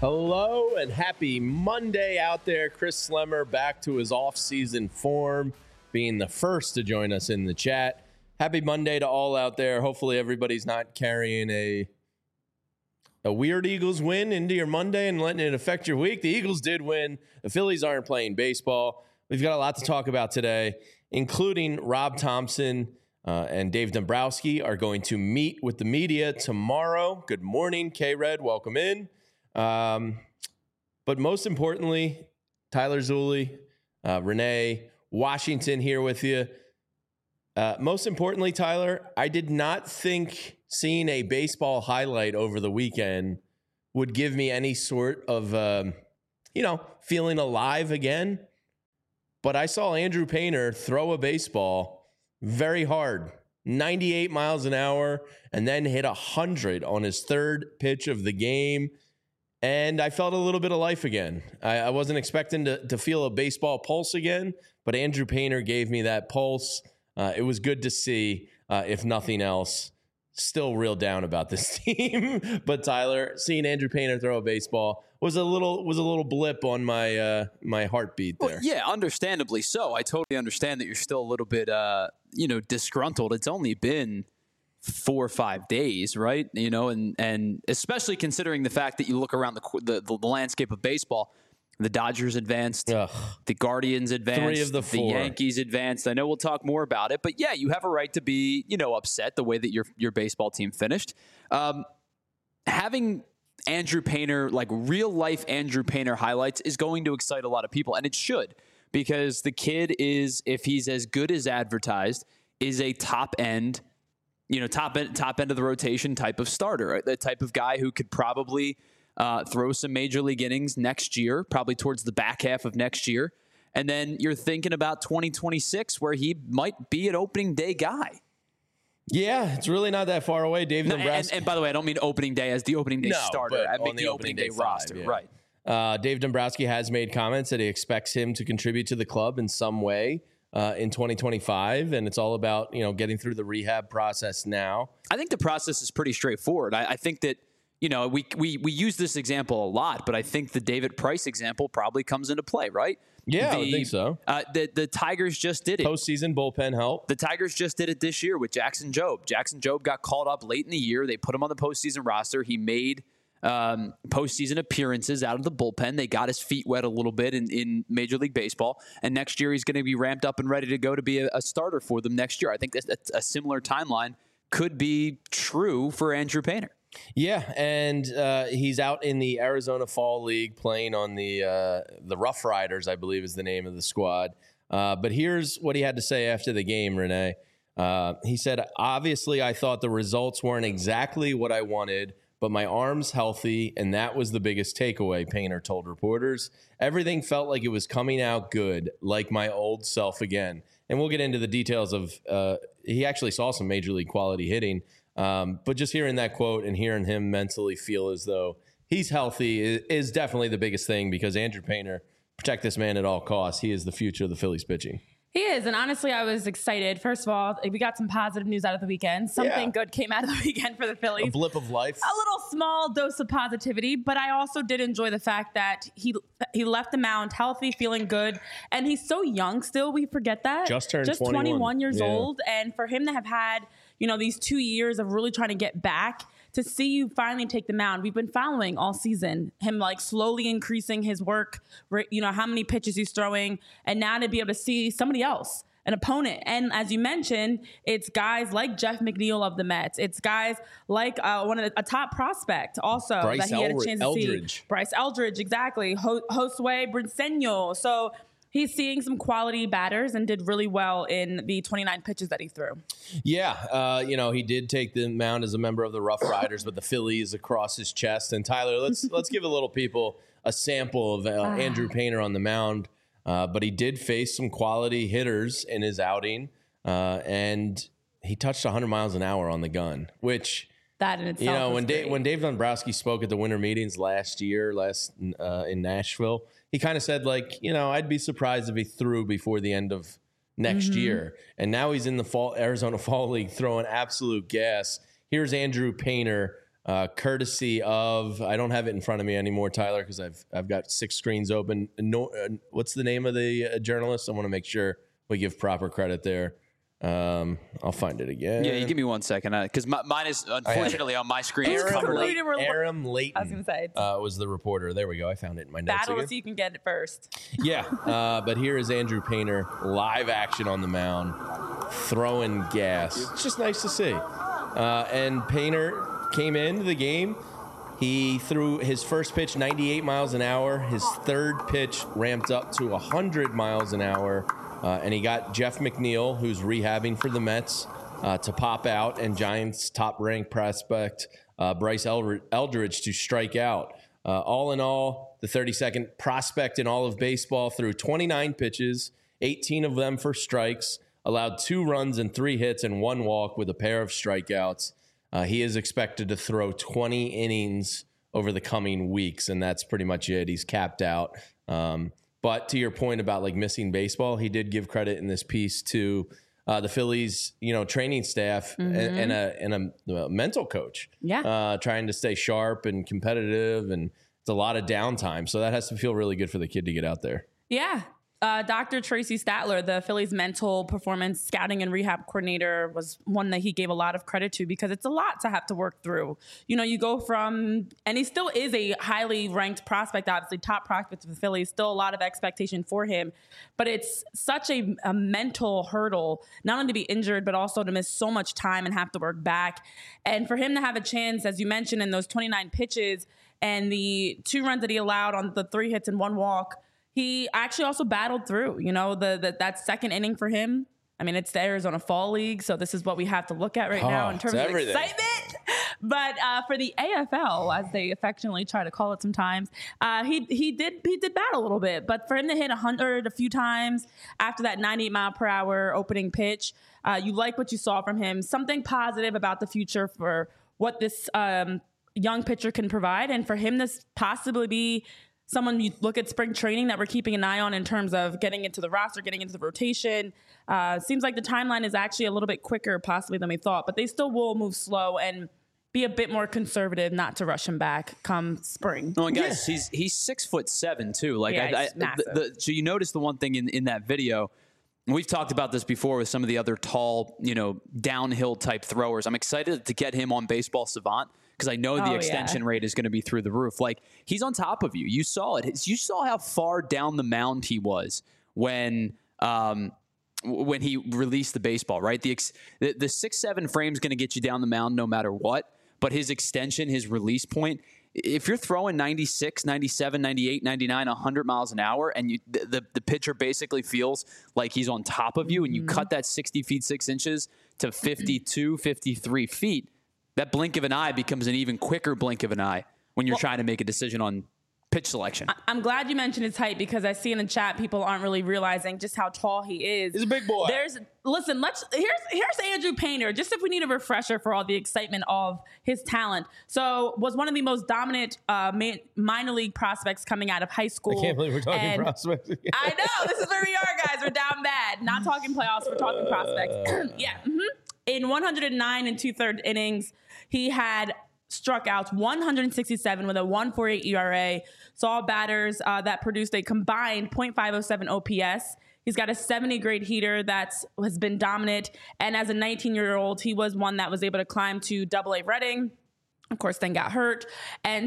Hello and happy Monday out there. Chris Slemmer back to his off-season form, being the first to join us in the chat. Happy Monday to all out there. Hopefully everybody's not carrying a weird Eagles win into your Monday and letting it affect your week. The Eagles did win. The Phillies aren't playing baseball. We've got a lot to talk about today, including Rob Thompson and Dave Dombrowski are going to meet with the media tomorrow. Good morning, K-Red. Welcome in. But most importantly, Tyler Zulli, Renee, Washington here with you. Most importantly, Tyler, I did not think seeing a baseball highlight over the weekend would give me any sort of, feeling alive again. But I saw Andrew Painter throw a baseball very hard, 98 miles an hour, and then hit 100 on his third pitch of the game. And I felt a little bit of life again. I wasn't expecting to feel a baseball pulse again, but Andrew Painter gave me that pulse. It was good to see, if nothing else. Still real down about this team. But Tyler, seeing Andrew Painter throw a baseball was a little blip on my my heartbeat there. Well, yeah, understandably so. I totally understand that you're still a little bit disgruntled. It's only been 4 or 5 days, right? And especially considering the fact that you look around the landscape of baseball, the Dodgers advanced, the Guardians advanced, 3 of the 4. The Yankees advanced. I know we'll talk more about it, but yeah, you have a right to be, upset the way that your baseball team finished. Having Andrew Painter, like real life Andrew Painter highlights, is going to excite a lot of people, and it should, because the kid is, if he's as good as advertised, is a top end of the rotation type of starter, right? The type of guy who could probably throw some major league innings next year, probably towards the back half of next year. And then you're thinking about 2026, where he might be an opening day guy. Yeah, it's really not that far away. Dave Dombrowski. And by the way, I don't mean opening day as the opening day starter. I mean the opening day roster. Yeah. Right. Dave Dombrowski has made comments that he expects him to contribute to the club in some way in 2025, and it's all about getting through the rehab process now. I think the process is pretty straightforward. I think that we use this example a lot, but I think the David Price example probably comes into play, right? Yeah, I would think so. The Tigers just did it. Postseason bullpen help. The Tigers just did it this year with Jackson Jobe. Jackson Jobe got called up late in the year. They put him on the postseason roster. He made postseason appearances out of the bullpen. They got his feet wet a little bit in Major League Baseball, and next year he's going to be ramped up and ready to go to be a starter for them next year. I think that's a similar timeline could be true for Andrew Painter. Yeah, and he's out in the Arizona Fall League playing on the Rough Riders, I believe is the name of the squad. But here's what he had to say after the game, Renee. He said, "Obviously, I thought the results weren't exactly what I wanted, but my arm's healthy, and that was the biggest takeaway," Painter told reporters. "Everything felt like it was coming out good, like my old self again." And we'll get into the details of he actually saw some major league quality hitting. But just hearing that quote and hearing him mentally feel as though he's healthy is definitely the biggest thing, because Andrew Painter, protect this man at all costs. He is the future of the Phillies pitching. He is, and honestly, I was excited. First of all, we got some positive news out of the weekend. Something good came out of the weekend for the Phillies. A blip of life. A little small dose of positivity, but I also did enjoy the fact that he left the mound healthy, feeling good, and he's so young still. We forget that. Just turned 21 years old, and for him to have had these 2 years of really trying to get back, to see you finally take the mound. We've been following all season him like slowly increasing his work, how many pitches he's throwing, and now to be able to see somebody else, an opponent. And as you mentioned, it's guys like Jeff McNeil of the Mets. It's guys like a top prospect also Bryce that he had a chance to see. Bryce Eldridge, exactly. Josue Briseño. So he's seeing some quality batters and did really well in the 29 pitches that he threw. Yeah, he did take the mound as a member of the Rough Riders, but the Phillies across his chest. And Tyler, let's give a little people a sample of Andrew Painter on the mound. But he did face some quality hitters in his outing, and he touched 100 miles an hour on the gun, which that in itself, when Dave Dombrowski spoke at the winter meetings last year in Nashville, he kind of said, I'd be surprised if he threw before the end of next year. And now he's in the Arizona Fall League throwing absolute gas. Here's Andrew Painter courtesy of, I don't have it in front of me anymore, Tyler, because I've got 6 screens open. What's the name of the journalist? I want to make sure we give proper credit there. I'll find it again. Yeah, you give me 1 second, because mine is unfortunately on my screen. Aram Leighton. I was going to say. Was the reporter. There we go. I found it in my notes. Battle again. so you can get it first. Yeah, but here is Andrew Painter, live action on the mound, throwing gas. It's just nice to see. And Painter came into the game. He threw his first pitch 98 miles an hour. His third pitch ramped up to 100 miles an hour. And he got Jeff McNeil, who's rehabbing for the Mets, to pop out, and Giants' top-ranked prospect Bryce Eldridge to strike out. All in all, the 32nd prospect in all of baseball threw 29 pitches, 18 of them for strikes, allowed 2 runs and 3 hits and 1 walk with a pair of strikeouts. He is expected to throw 20 innings over the coming weeks, and that's pretty much it. He's capped out. But to your point about like missing baseball, he did give credit in this piece to the Phillies, training staff and a mental coach. Yeah, trying to stay sharp and competitive, and it's a lot of downtime. So that has to feel really good for the kid to get out there. Yeah. Dr. Tracy Statler, the Phillies mental performance scouting and rehab coordinator, was one that he gave a lot of credit to, because it's a lot to have to work through. You go from, and he still is a highly ranked prospect, obviously top prospect of the Phillies, still a lot of expectation for him, but it's such a mental hurdle, not only to be injured, but also to miss so much time and have to work back. And for him to have a chance, as you mentioned, in those 29 pitches and the 2 runs that he allowed on the 3 hits and 1 walk, he actually also battled through, that second inning for him. I mean, it's the Arizona Fall League, so this is what we have to look at right now in terms of excitement. But for the AFL, as they affectionately try to call it sometimes, he did battle a little bit. But for him to hit 100 a few times after that 98-mile-per-hour opening pitch, you like what you saw from him. Something positive about the future for what this young pitcher can provide, and for him to possibly be someone you look at spring training that we're keeping an eye on in terms of getting into the roster, getting into the rotation. Seems like the timeline is actually a little bit quicker possibly than we thought, but they still will move slow and be a bit more conservative, not to rush him back come spring. Oh, and guys, he's 6'7" too. Like, yeah, massive. So you notice the one thing in that video. We've talked about this before with some of the other tall, downhill type throwers. I'm excited to get him on Baseball Savant, because I know the extension rate is going to be through the roof. Like, he's on top of you. You saw it. You saw how far down the mound he was when he released the baseball, right? The 6'7" frame is going to get you down the mound no matter what. But his extension, his release point, if you're throwing 96, 97, 98, 99, 100 miles an hour, and the pitcher basically feels like he's on top of you, and you cut that 60 feet 6 inches to 52, 53 feet, that blink of an eye becomes an even quicker blink of an eye when you're trying to make a decision on pitch selection. I'm glad you mentioned his height, because I see in the chat people aren't really realizing just how tall he is. He's a big boy. Here's Andrew Painter, just if we need a refresher for all the excitement of his talent. So was one of the most dominant minor league prospects coming out of high school. I can't believe we're talking prospects again. I know, this is where we are, guys. We're down bad. Not talking playoffs, we're talking prospects. Yeah. In 109 and 2/3 innings, he had struck out 167 with a 1.48 ERA. Saw batters that produced a combined .507 OPS. He's got a 70 grade heater that has been dominant. And as a 19-year-old, he was one that was able to climb to AA Reading. Of course, then got hurt. And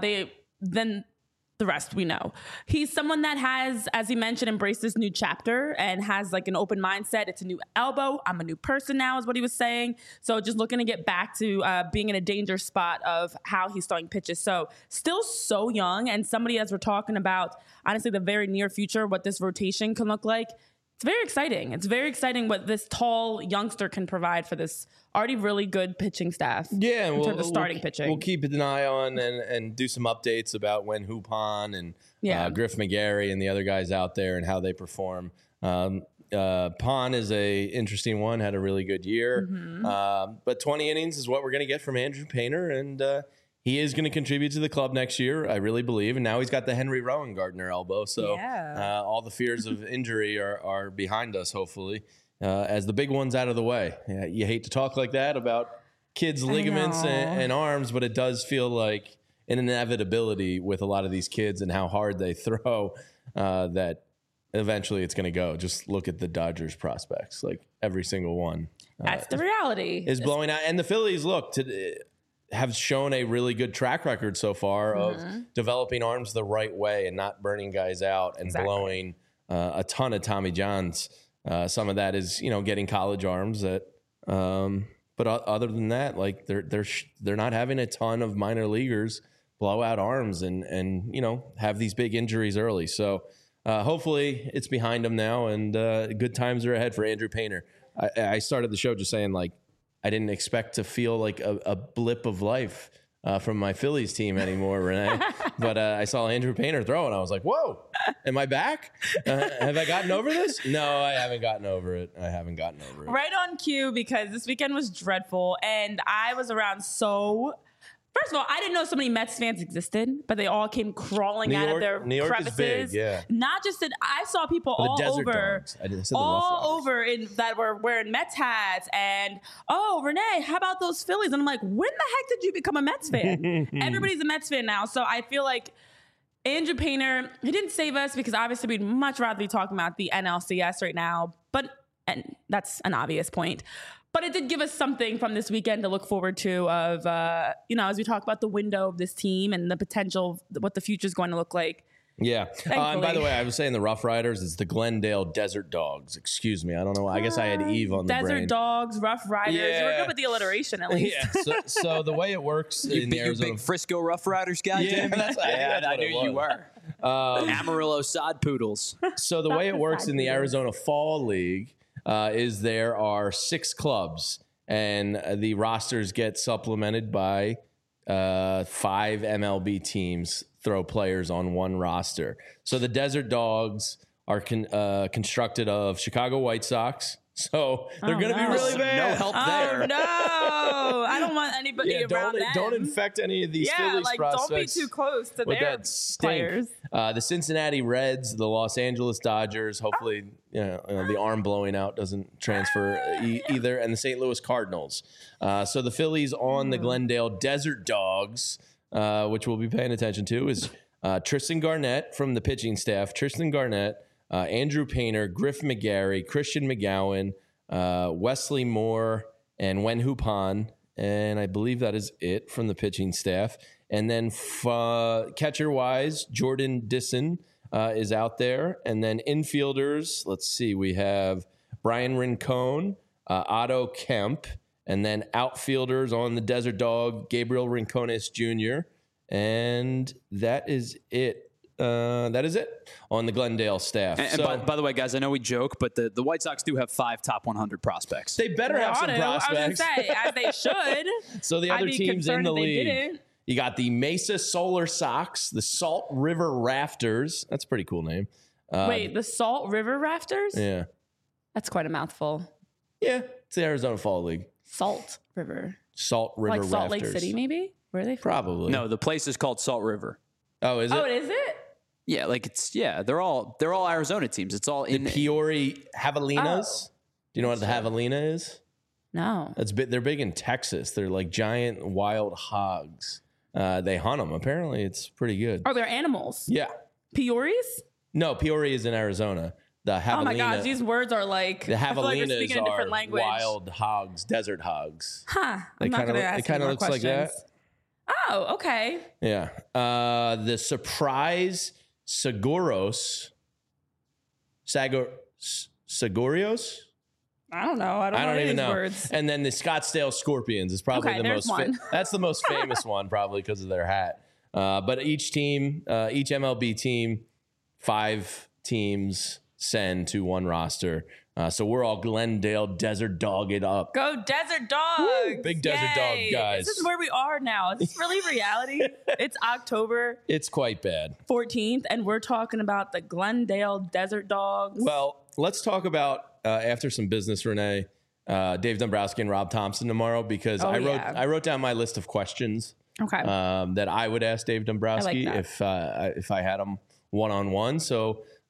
the rest we know. He's someone that has, as he mentioned, embraced this new chapter and has like an open mindset. It's a new elbow. I'm a new person now is what he was saying. So just looking to get back to being in a danger spot of how he's throwing pitches. So still so young, and somebody, as we're talking about, honestly, the very near future, what this rotation can look like. It's very exciting. It's very exciting what this tall youngster can provide for this already really good pitching staff. Yeah, in terms of starting pitching. We'll keep an eye on and do some updates about when Hupon and Griff McGarry and the other guys out there and how they perform. Pon is a interesting one, had a really good year. But 20 innings is what we're going to get from Andrew Painter, and he is going to contribute to the club next year, I really believe. And now he's got the Henry Rowan-Gardner elbow. So all the fears of injury are behind us, hopefully, as the big one's out of the way. You hate to talk like that about kids' ligaments and arms, but it does feel like an inevitability with a lot of these kids and how hard they throw that eventually it's going to go. Just look at the Dodgers prospects, like every single one. That's the reality. Is blowing out. And the Phillies, have shown a really good track record so far of developing arms the right way and not burning guys out and blowing a ton of Tommy Johns. Some of that is, getting college arms but other than that, like they're not having a ton of minor leaguers blow out arms and have these big injuries early. So hopefully it's behind them now, and good times are ahead for Andrew Painter. I started the show just saying, like, I didn't expect to feel like a blip of life from my Phillies team anymore, Renee. But I saw Andrew Painter throw, and I was like, whoa, am I back? Have I gotten over this? No, I haven't gotten over it. Right on cue, because this weekend was dreadful, and I was around First of all, I didn't know so many Mets fans existed, but they all came crawling out of their New York crevices. is big, yeah. Not just I saw people all over, that were wearing Mets hats, and Renee, how about those Phillies? And I'm like, when the heck did you become a Mets fan? Everybody's a Mets fan now, so I feel like Andrew Painter, he didn't save us because obviously we'd much rather be talking about the NLCS right now, and that's an obvious point. But it did give us something from this weekend to look forward to of, as we talk about the window of this team and the potential, what the future is going to look like. Yeah. And by the way, I was saying the Rough Riders, it's the Glendale Desert Dogs. Excuse me. I don't know. I guess I had Eve on the brain. Desert Dogs, Rough Riders. Yeah. You were good with the alliteration at least. Yeah. So the way it works in the Arizona... You big Frisco Rough Riders guy, yeah, Jamie? I knew you were. Amarillo Sod Poodles. So the way it works in the Arizona Fall League is there are 6 clubs, and the rosters get supplemented by 5 MLB teams throw players on one roster. So the Desert Dogs are constructed of Chicago White Sox. So they're going to be really bad. No help there. Oh, no. I don't want anybody around them. Don't infect any of these Phillies prospects. Don't be too close to with their that players. The Cincinnati Reds, the Los Angeles Dodgers, hopefully the arm blowing out doesn't transfer either, and the St. Louis Cardinals. So the Phillies on the Glendale Desert Dogs, which we'll be paying attention to, is Tristan Garnett from the pitching staff. Tristan Garnett, Andrew Painter, Griff McGarry, Christian McGowan, Wesley Moore, and Wenhu Pan. And I believe that is it from the pitching staff. And then catcher-wise, Jordan Disson is out there. And then infielders, let's see, we have Brian Rincon, Otto Kemp, and then outfielders on the Desert Dog, Gabriel Rincones Jr., and that is it. That is it on the Glendale staff. And by the way, guys, I know we joke, but the White Sox do have 5 top 100 prospects. They better have some prospects. I was going to say, as they should. So the other teams in the league, you got the Mesa Solar Sox, the Salt River Rafters. That's a pretty cool name. Wait, the Salt River Rafters? Yeah. That's quite a mouthful. Yeah, it's the Arizona Fall League. Salt River. Salt River Rafters. Like Salt Rafters. Lake City, maybe? Where are they from? Probably. No, the place is called Salt River. Oh, is it? Oh, is it? Yeah, they're all Arizona teams. It's all in the Peoria Javelinas. Oh. Do you know what the Javelina is? No. They're big in Texas. They're like giant wild hogs. They hunt them. Apparently, it's pretty good. Oh, they're animals. Yeah. Peories? No, Peoria is in Arizona. The Javelina. Oh my gosh, these words are like the Javelinas speaking a different language. Wild hogs, desert hogs. Huh. I'm not going to ask you more looks questions. like that. Oh, okay. Yeah. The surprise Sagorios. I don't know. I don't even know. Words. And then the Scottsdale Scorpions is probably the most. That's the most famous one, probably because of their hat. But each team, each MLB team, 5 teams send to one roster. So we're all Glendale Desert Dog it up. Go Desert Dogs! Woo! Big Desert Dog guys. This is where we are now. Is this really reality? It's October. It's quite bad. 14th, and we're talking about the Glendale Desert Dogs. Well, let's talk about after some business, Renee, Dave Dombrowski and Rob Thompson tomorrow, because I wrote down my list of questions. Okay. That I would ask Dave Dombrowski if I had him one-on-one. So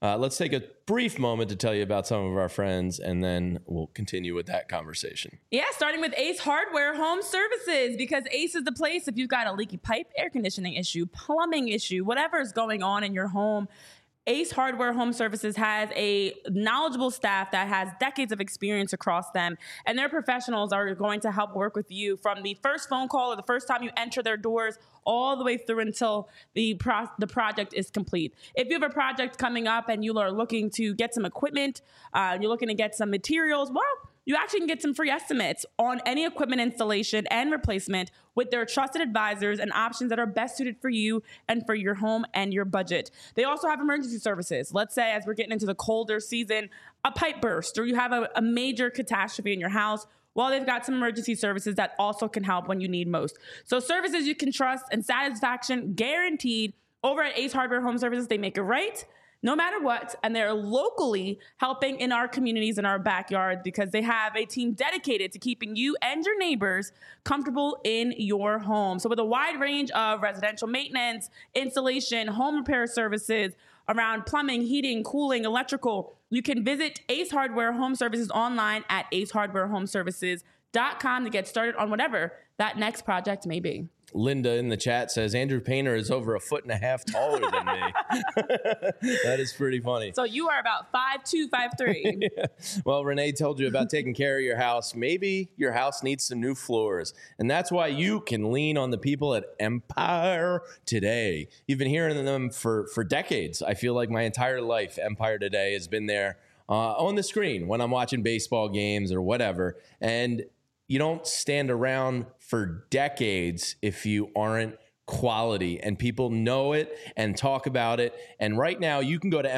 Let's take a brief moment to tell you about some of our friends, and then we'll continue with that conversation. Yeah, starting with Ace Hardware Home Services, because Ace is the place if you've got a leaky pipe, air conditioning issue, plumbing issue, whatever is going on in your home. Ace Hardware Home Services has a knowledgeable staff that has decades of experience across them, and their professionals are going to help work with you from the first phone call or the first time you enter their doors all the way through until the project is complete. If you have a project coming up and you are looking to get some equipment, you're looking to get some materials, well, you actually can get some free estimates on any equipment installation and replacement with their trusted advisors and options that are best suited for you and for your home and your budget. They also have emergency services. Let's say as we're getting into the colder season, a pipe burst or you have a major catastrophe in your house. Well, they've got some emergency services that also can help when you need most. So services you can trust and satisfaction guaranteed over at Ace Hardware Home Services. They make it right no matter what, and they're locally helping in our communities, in our backyard, because they have a team dedicated to keeping you and your neighbors comfortable in your home. So with a wide range of residential maintenance, installation, home repair services around plumbing, heating, cooling, electrical, you can visit Ace Hardware Home Services online at acehardwarehomeservices.com to get started on whatever that next project may be. Linda in the chat says Andrew Painter is over 1.5 feet taller than me. That is pretty funny. So you are about 5'2", 5'3". Yeah. Well, Renee told you about taking care of your house. Maybe your house needs some new floors, and that's why you can lean on the people at Empire Today. You've been hearing them for decades. I feel like my entire life, Empire Today has been there on the screen when I'm watching baseball games or whatever, and you don't stand around for decades if you aren't quality, and people know it and talk about it. And right now you can go to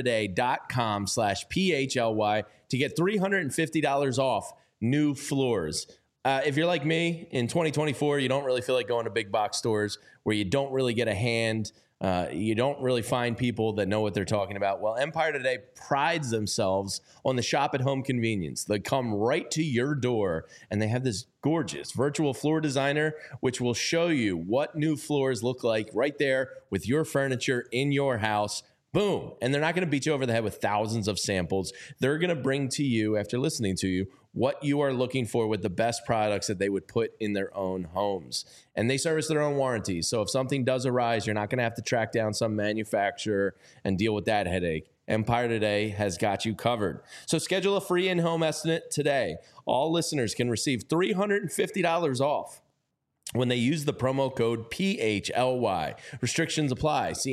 empiretoday.com/PHLY to get $350 off new floors. If you're like me in 2024, you don't really feel like going to big box stores where you don't really get a hand. You don't really find people that know what they're talking about. Well, Empire Today prides themselves on the shop at home convenience. They come right to your door, and they have this gorgeous virtual floor designer, which will show you what new floors look like right there with your furniture in your house. Boom. And they're not going to beat you over the head with thousands of samples. They're going to bring to you, after listening to you, what you are looking for with the best products that they would put in their own homes. And they service their own warranties. So if something does arise, you're not going to have to track down some manufacturer and deal with that headache. Empire Today has got you covered. So schedule a free in-home estimate today. All listeners can receive $350 off when they use the promo code PHLY. Restrictions apply. See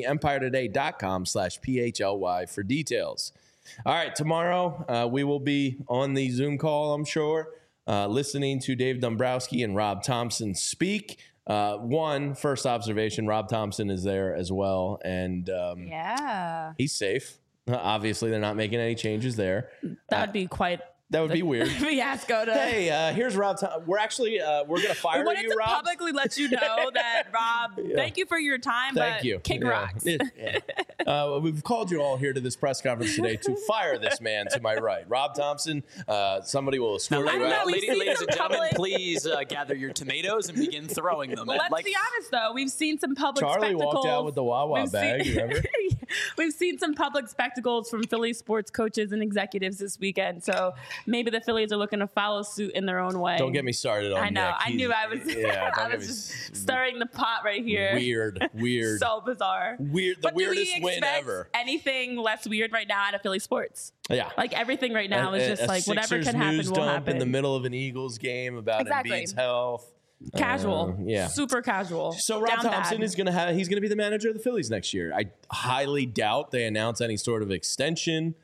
empiretoday.com/PHLY for details. All right, tomorrow we will be on the Zoom call, I'm sure, listening to Dave Dombrowski and Rob Thompson speak. First observation, Rob Thompson is there as well, and he's safe. Obviously, they're not making any changes there. That would be quite... That would be weird. Fiasco. Hey, here's Rob. We're actually we're gonna fire you, Rob. We wanted to publicly let you know that, Rob. Thank you for your time. Thank you. Kick rocks. We've called you all here to this press conference today to fire this man to my right, Rob Thompson. Somebody will escort you out. Ladies and gentlemen, please gather your tomatoes and begin throwing them. Well, let's be honest, though. We've seen some public Charlie spectacles. walked out with the Wawa bag. Remember? We've seen some public spectacles from Philly sports coaches and executives this weekend. So maybe the Phillies are looking to follow suit in their own way. Don't get me started on I know. Nick. I knew I was. Yeah, I was just stirring the pot right here. Weird. So bizarre. The weirdest win ever. Anything less weird right now out of Philly sports? Yeah. Like everything right now is just like whatever can happen news will dump happen. in the middle of an Eagles game about Embiid's health. Casual. Yeah. Super casual. So Rob Thompson is going to he's going to be the manager of the Phillies next year. I highly doubt they announce any sort of extension.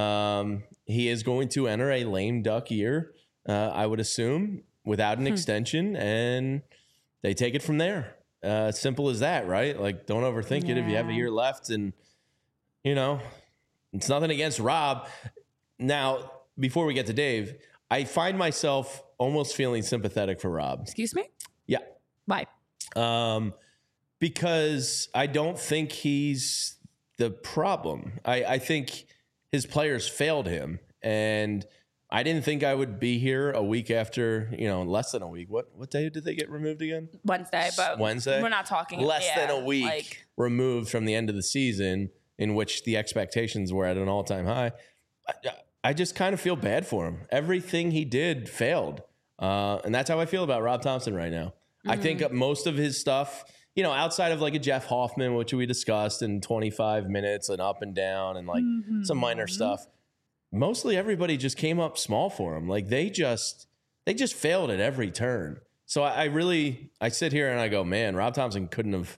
He is going to enter a lame duck year, I would assume, without an extension, and they take it from there. Simple as that, right? Like, don't overthink it if you have a year left, and, it's nothing against Rob. Now, before we get to Dave, I find myself almost feeling sympathetic for Rob. Excuse me? Yeah. Why? Because I don't think he's the problem. I think his players failed him, and I didn't think I would be here a week after, less than a week. What day did they get removed again? Wednesday, but Wednesday. We're not talking less than a week removed from the end of the season. in which the expectations were at an all-time high. I just kind of feel bad for him. Everything he did failed. And that's how I feel about Rob Thompson right now. I think most of his stuff, outside of like a Jeff Hoffman, which we discussed in 25 minutes and up and down and like some minor stuff, mostly everybody just came up small for him. Like they just failed at every turn. So I sit here and I go, man, Rob Thompson couldn't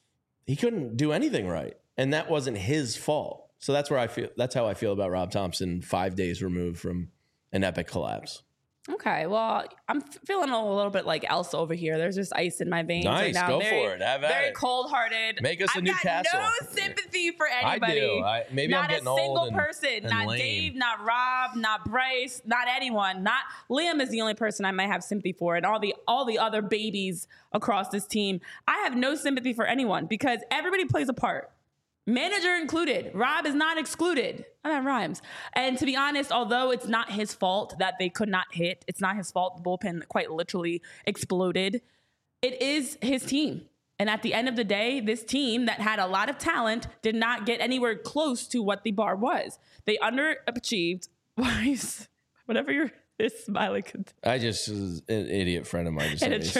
do anything right. And that wasn't his fault. So that's how I feel about Rob Thompson 5 days removed from an epic collapse. Okay, well, I'm feeling a little bit like Elsa over here. There's just ice in my veins right now. Go for it. Have at very it. Cold-hearted. Make us a Newcastle. I've got no sympathy for anybody. I do. Maybe I'm getting old. Not a single person. And Not lame. Dave, not Rob, not Bryce, not anyone. Not Liam is the only person I might have sympathy for, and all the other babies across this team. I have no sympathy for anyone because everybody plays a part. Manager included. Rob is not excluded. Oh, that rhymes. And to be honest, although it's not his fault that they could not hit, it's not his fault the bullpen quite literally exploded. It is his team. And at the end of the day, this team that had a lot of talent did not get anywhere close to what the bar was. They underachieved. Whatever this smiley could. I just was an idiot friend of mine.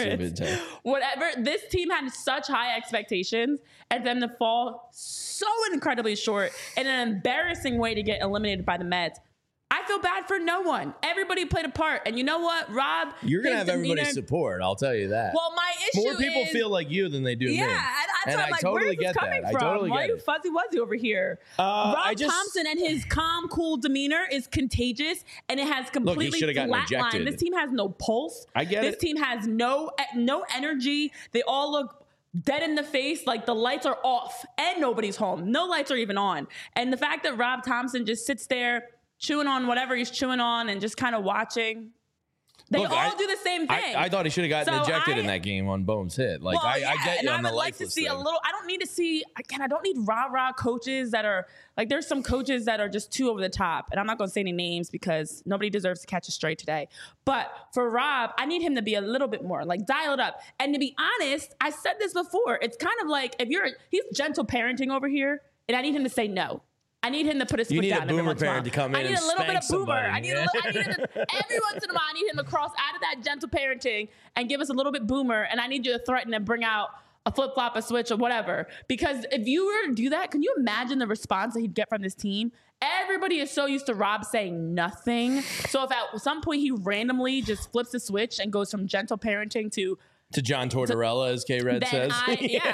Whatever. This team had such high expectations and then to fall so incredibly short in an embarrassing way to get eliminated by the Mets. I feel bad for no one. Everybody played a part. And you know what, Rob? You're going to have everybody's support. I'll tell you that. Well, my issue More people feel like you than they do me. Yeah, and I'm like, totally where's this coming from? Why are you fuzzy-wuzzy over here? Rob Thompson and his calm, cool demeanor is contagious, and it has completely flatlined. This team has no pulse. I get This team has no energy. They all look dead in the face, like the lights are off, and nobody's home. No lights are even on. And the fact that Rob Thompson just sits there chewing on whatever he's chewing on and just kind of watching. They all do the same thing. I thought he should have gotten ejected in that game on Bohm's hit. Like, I get you on the lifeless thing. I would like to see a little. I don't need to see. Again, I don't need rah-rah coaches that are like. There's some coaches that are just too over the top, and I'm not going to say any names because nobody deserves to catch a stray today. But for Rob, I need him to be a little bit more like dial it up. And to be honest, I said this before. It's kind of like he's gentle parenting over here, and I need him to say no. I need him to put his foot down. You need a boomer parent to come in and spank somebody. I need a little bit of boomer. I need every once in a while, I need him to cross out of that gentle parenting and give us a little bit boomer. And I need you to threaten and bring out a flip-flop, a switch, or whatever. Because if you were to do that, can you imagine the response that he'd get from this team? Everybody is so used to Rob saying nothing. So if at some point he randomly just flips the switch and goes from gentle parenting to John Tortorella, as K-Red says. Then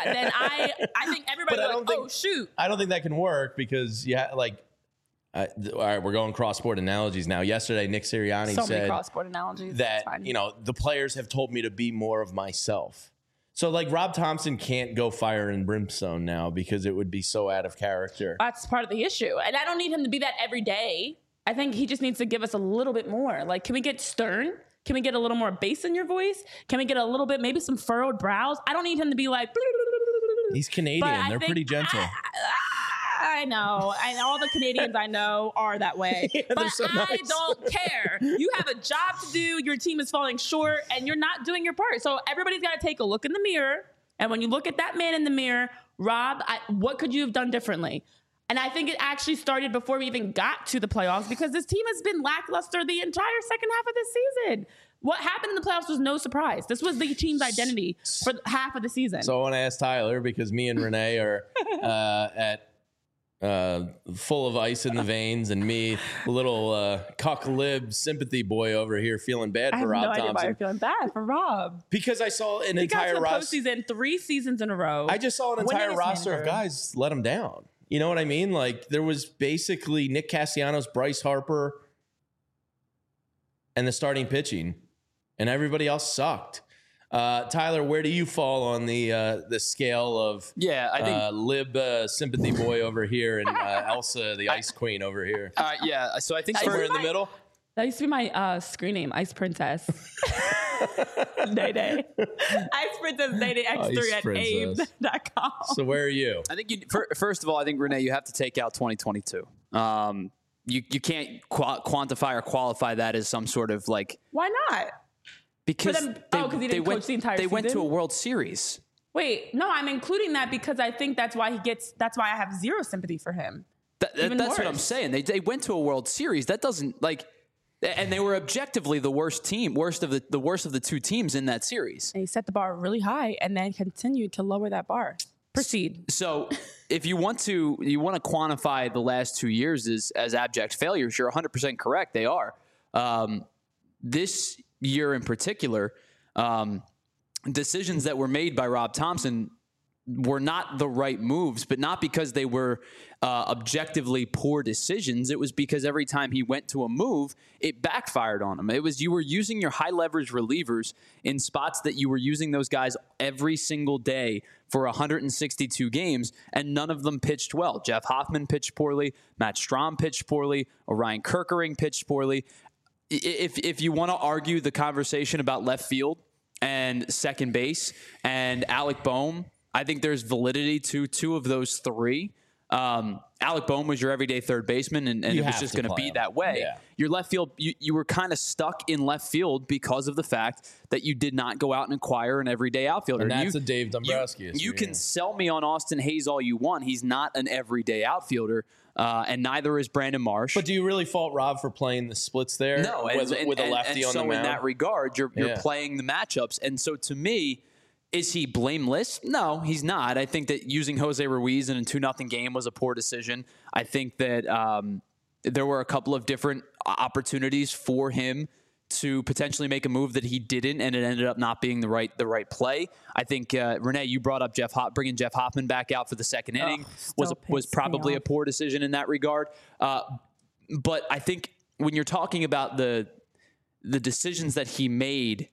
I think everybody oh, shoot. I don't think that can work because, all right, we're going cross-sport analogies now. Yesterday, Nick Sirianni said many cross-sport analogies. That, the players have told me to be more of myself. So, like, Rob Thompson can't go fire and brimstone now because it would be so out of character. That's part of the issue. And I don't need him to be that every day. I think he just needs to give us a little bit more. Like, can we get stern? Can we get a little more bass in your voice? Can we get a little bit, maybe some furrowed brows? I don't need him to be like... He's Canadian. They're pretty gentle. I know. And all the Canadians I know are that way. Yeah, but so nice. I don't care. You have a job to do. Your team is falling short, and you're not doing your part. So everybody's got to take a look in the mirror. And when you look at that man in the mirror, Rob, what could you have done differently? And I think it actually started before we even got to the playoffs because this team has been lackluster the entire second half of this season. What happened in the playoffs was no surprise. This was the team's identity for half of the season. So I want to ask Tyler because me and Renee are at full of ice in the veins, and me, little cuck-lib sympathy boy over here, feeling bad for Rob Thompson. I have no idea why you're feeling bad for Rob. Because I saw an entire roster. Postseason 3 seasons in a row. I just saw an entire roster of guys let him down. You know what I mean? Like, there was basically Nick Castellanos, Bryce Harper, and the starting pitching, and everybody else sucked. Tyler, where do you fall on the scale of I think lib sympathy boy over here and Elsa, the ice queen over here? So I think somewhere in the middle. That used to be my screen name, Ice Princess. Day. Ice Princess Day X3 at abe.com. So where are you? I think first of all, I think, Renee, you have to take out 2022. You can't quantify or qualify that as some sort of like. Why not? Because he didn't coach the entire season? They went to a World Series. Wait, no, I'm including that because I think that's why I have zero sympathy for him. That's what I'm saying. They went to a World Series. That doesn't and they were objectively the worst of the two teams in that series. And he set the bar really high and then continued to lower that bar. Proceed. So if you want to quantify the last 2 years as abject failures, you're 100% correct. They are. This year in particular, decisions that were made by Rob Thomson were not the right moves, but not because they were objectively poor decisions. It was because every time he went to a move, it backfired on him. You were using your high leverage relievers in spots that you were using those guys every single day for 162 games, and none of them pitched well. Jeff Hoffman pitched poorly. Matt Strahm pitched poorly. Orion Kerkering pitched poorly. If you want to argue the conversation about left field and second base and Alec Bohm, I think there's validity to two of those three. Alec Bohm was your everyday third baseman, and it was just going to be that way. Yeah. Your left field, you were kind of stuck in left field because of the fact that you did not go out and acquire an everyday outfielder. And that's a Dave Dombrowski issue. You can sell me on Austin Hayes all you want. He's not an everyday outfielder, and neither is Brandon Marsh. But do you really fault Rob for playing the splits there? No, with a lefty on the mound? So in that regard, you're playing the matchups. And so to me, is he blameless? No, he's not. I think that using Jose Ruiz in a 2-0 game was a poor decision. I think that there were a couple of different opportunities for him to potentially make a move that he didn't, and it ended up not being the right play. I think Renee, you brought up bringing Jeff Hoffman back out for the second inning was probably a poor decision in that regard. But I think when you're talking about the decisions that he made,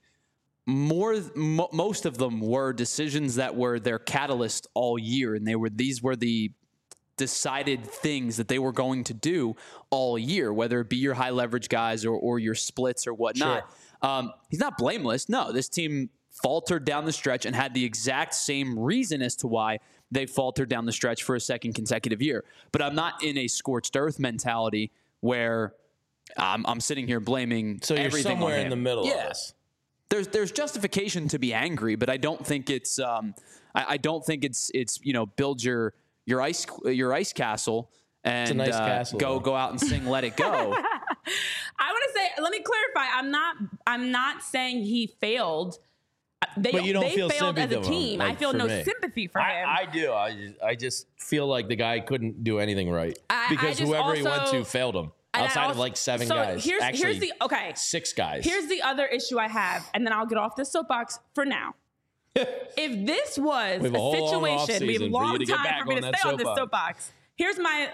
most of them were decisions that were their catalyst all year, and these were the decided things that they were going to do all year, whether it be your high leverage guys or your splits or whatnot. Sure. He's not blameless. No, this team faltered down the stretch and had the exact same reason as to why they faltered down the stretch for a second consecutive year. But I'm not in a scorched earth mentality where I'm sitting here blaming so you're everything somewhere on him. In the middle of this. There's justification to be angry, but I don't think it's I don't think it's build your ice castle and it's a nice castle, go out and sing Let It Go. I want to say, let me clarify. I'm not saying he failed. But you don't feel failed sympathy as a team. Like, I feel no sympathy for him. I do. I just feel like the guy couldn't do anything right because whoever he went to failed him. Outside of like seven guys. Here's the 6 guys. Here's the other issue I have, and then I'll get off this soapbox for now. If this was a situation, we have a long time for me to stay on this soapbox. Here's my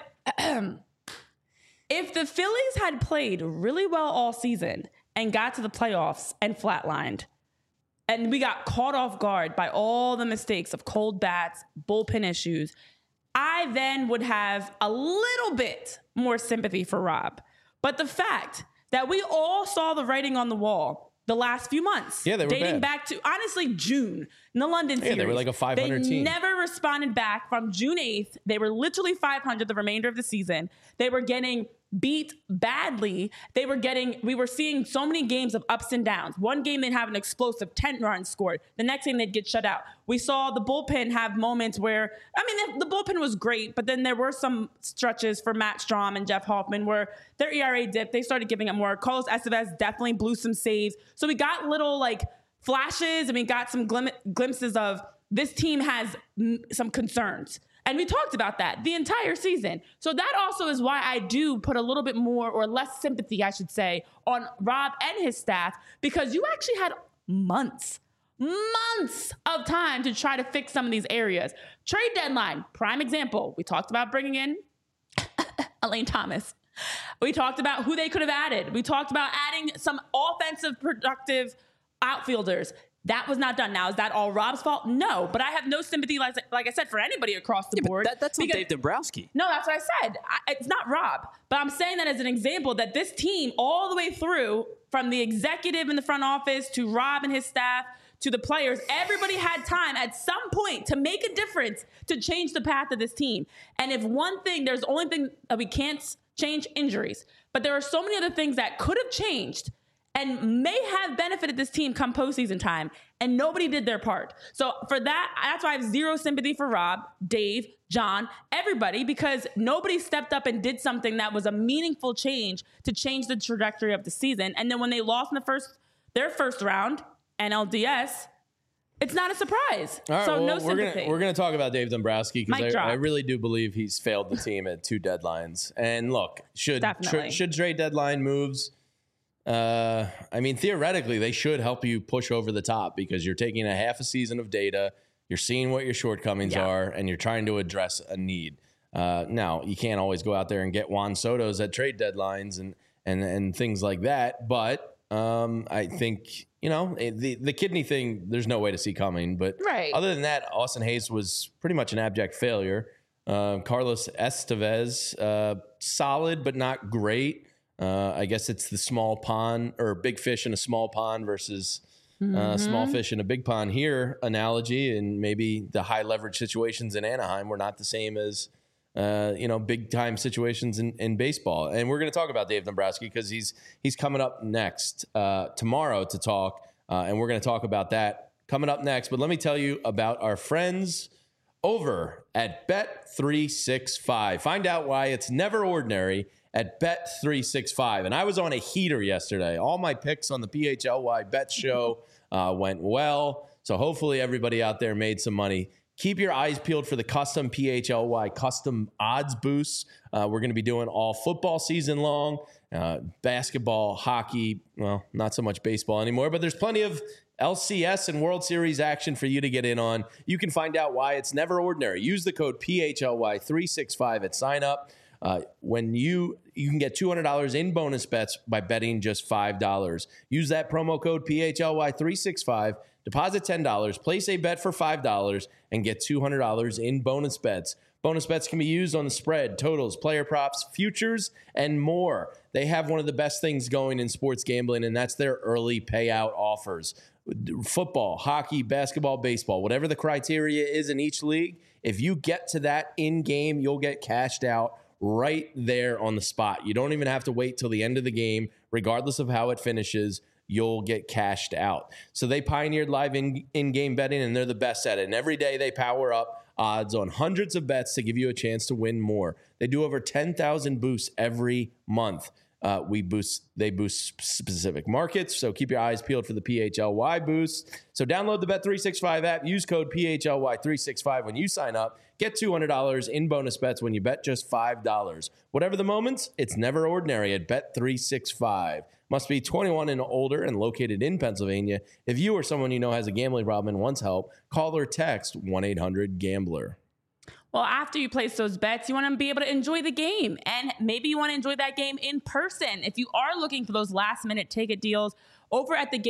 if the Phillies had played really well all season and got to the playoffs and flatlined, and we got caught off guard by all the mistakes of cold bats, bullpen issues, I then would have a little bit more sympathy for Rob. But the fact that we all saw the writing on the wall the last few months, they were dating bad. back to, honestly, June in the London series. They were like a 500 team. They never responded back from June 8th. They were literally 500 the remainder of the season. They were getting beat badly. We were seeing so many games of ups and downs. One game they'd have an explosive 10 runs scored. The next game they'd get shut out. We saw the bullpen have moments where, the bullpen was great, but then there were some stretches for Matt Strahm and Jeff Hoffman where their ERA dipped. They started giving up more. Carlos Estevez definitely blew some saves. So we got little flashes and we got some glimpses of this team has some concerns. And we talked about that the entire season. So that also is why I do put a little bit more or less sympathy, I should say, on Rob and his staff, because you actually had months of time to try to fix some of these areas. Trade deadline, prime example. We talked about bringing in Elaine Thomas. We talked about who they could have added. We talked about adding some offensive, productive outfielders. That was not done. Now, is that all Rob's fault? No, but I have no sympathy, like I said, for anybody across the board. That's not Dave Dombrowski. No, that's what I said. It's not Rob. But I'm saying that as an example that this team, all the way through, from the executive in the front office to Rob and his staff to the players, everybody had time at some point to make a difference to change the path of this team. And if there's only thing that we can't change, injuries. But there are so many other things that could have changed. and may have benefited this team come postseason time, and nobody did their part. So for that's why I have zero sympathy for Rob, Dave, John, everybody, because nobody stepped up and did something that was a meaningful change to change the trajectory of the season. And then when they lost in their first round, NLDS, it's not a surprise. All right, so well, no sympathy. We're gonna talk about Dave Dombrowski because Mic I drop. really do believe he's failed the team at 2 deadlines. And look, should Definitely. trade deadline moves? I mean, theoretically, they should help you push over the top because you're taking a half a season of data, you're seeing what your shortcomings are, and you're trying to address a need. Now, you can't always go out there and get Juan Soto's at trade deadlines and things like that, but I think, the kidney thing, there's no way to see coming. But Right. other than that, Austin Hayes was pretty much an abject failure. Carlos Estevez, solid but not great. I guess it's the small pond or big fish in a small pond versus small fish in a big pond here analogy. And maybe the high leverage situations in Anaheim were not the same as, big time situations in baseball. And we're going to talk about Dave Dombrowski because he's coming up next tomorrow to talk. And we're going to talk about that coming up next. But let me tell you about our friends over at Bet365. Find out why it's never ordinary at Bet365. And I was on a heater yesterday. All my picks on the PHLY Bet show went well. So hopefully everybody out there made some money. Keep your eyes peeled for the custom PHLY custom odds boosts. We're going to be doing all football season long, basketball, hockey, well, not so much baseball anymore, but there's plenty of LCS and World Series action for you to get in on. You can find out why it's never ordinary. Use the code PHLY365 at sign up. When you can get $200 in bonus bets by betting just $5. Use that promo code PHLY365, deposit $10, place a bet for $5, and get $200 in bonus bets. Bonus bets can be used on the spread, totals, player props, futures, and more. They have one of the best things going in sports gambling, and that's their early payout offers. Football, hockey, basketball, baseball, whatever the criteria is in each league, if you get to that in-game, you'll get cashed out right there on the spot. You don't even have to wait till the end of the game. Regardless of how it finishes, you'll get cashed out. So they pioneered live in-game betting, and they're the best at it. And every day they power up odds on hundreds of bets to give you a chance to win more. They do over 10,000 boosts every month. They boost specific markets, so keep your eyes peeled for the PHLY boost. So download the Bet365 app, use code PHLY365 when you sign up. Get $200 in bonus bets when you bet just $5. Whatever the moments, it's never ordinary at Bet365. Must be 21 and older and located in Pennsylvania. If you or someone you know has a gambling problem and wants help, call or text 1-800-GAMBLER. Well, after you place those bets, you want to be able to enjoy the game. And maybe you want to enjoy that game in person. If you are looking for those last-minute ticket deals, over at the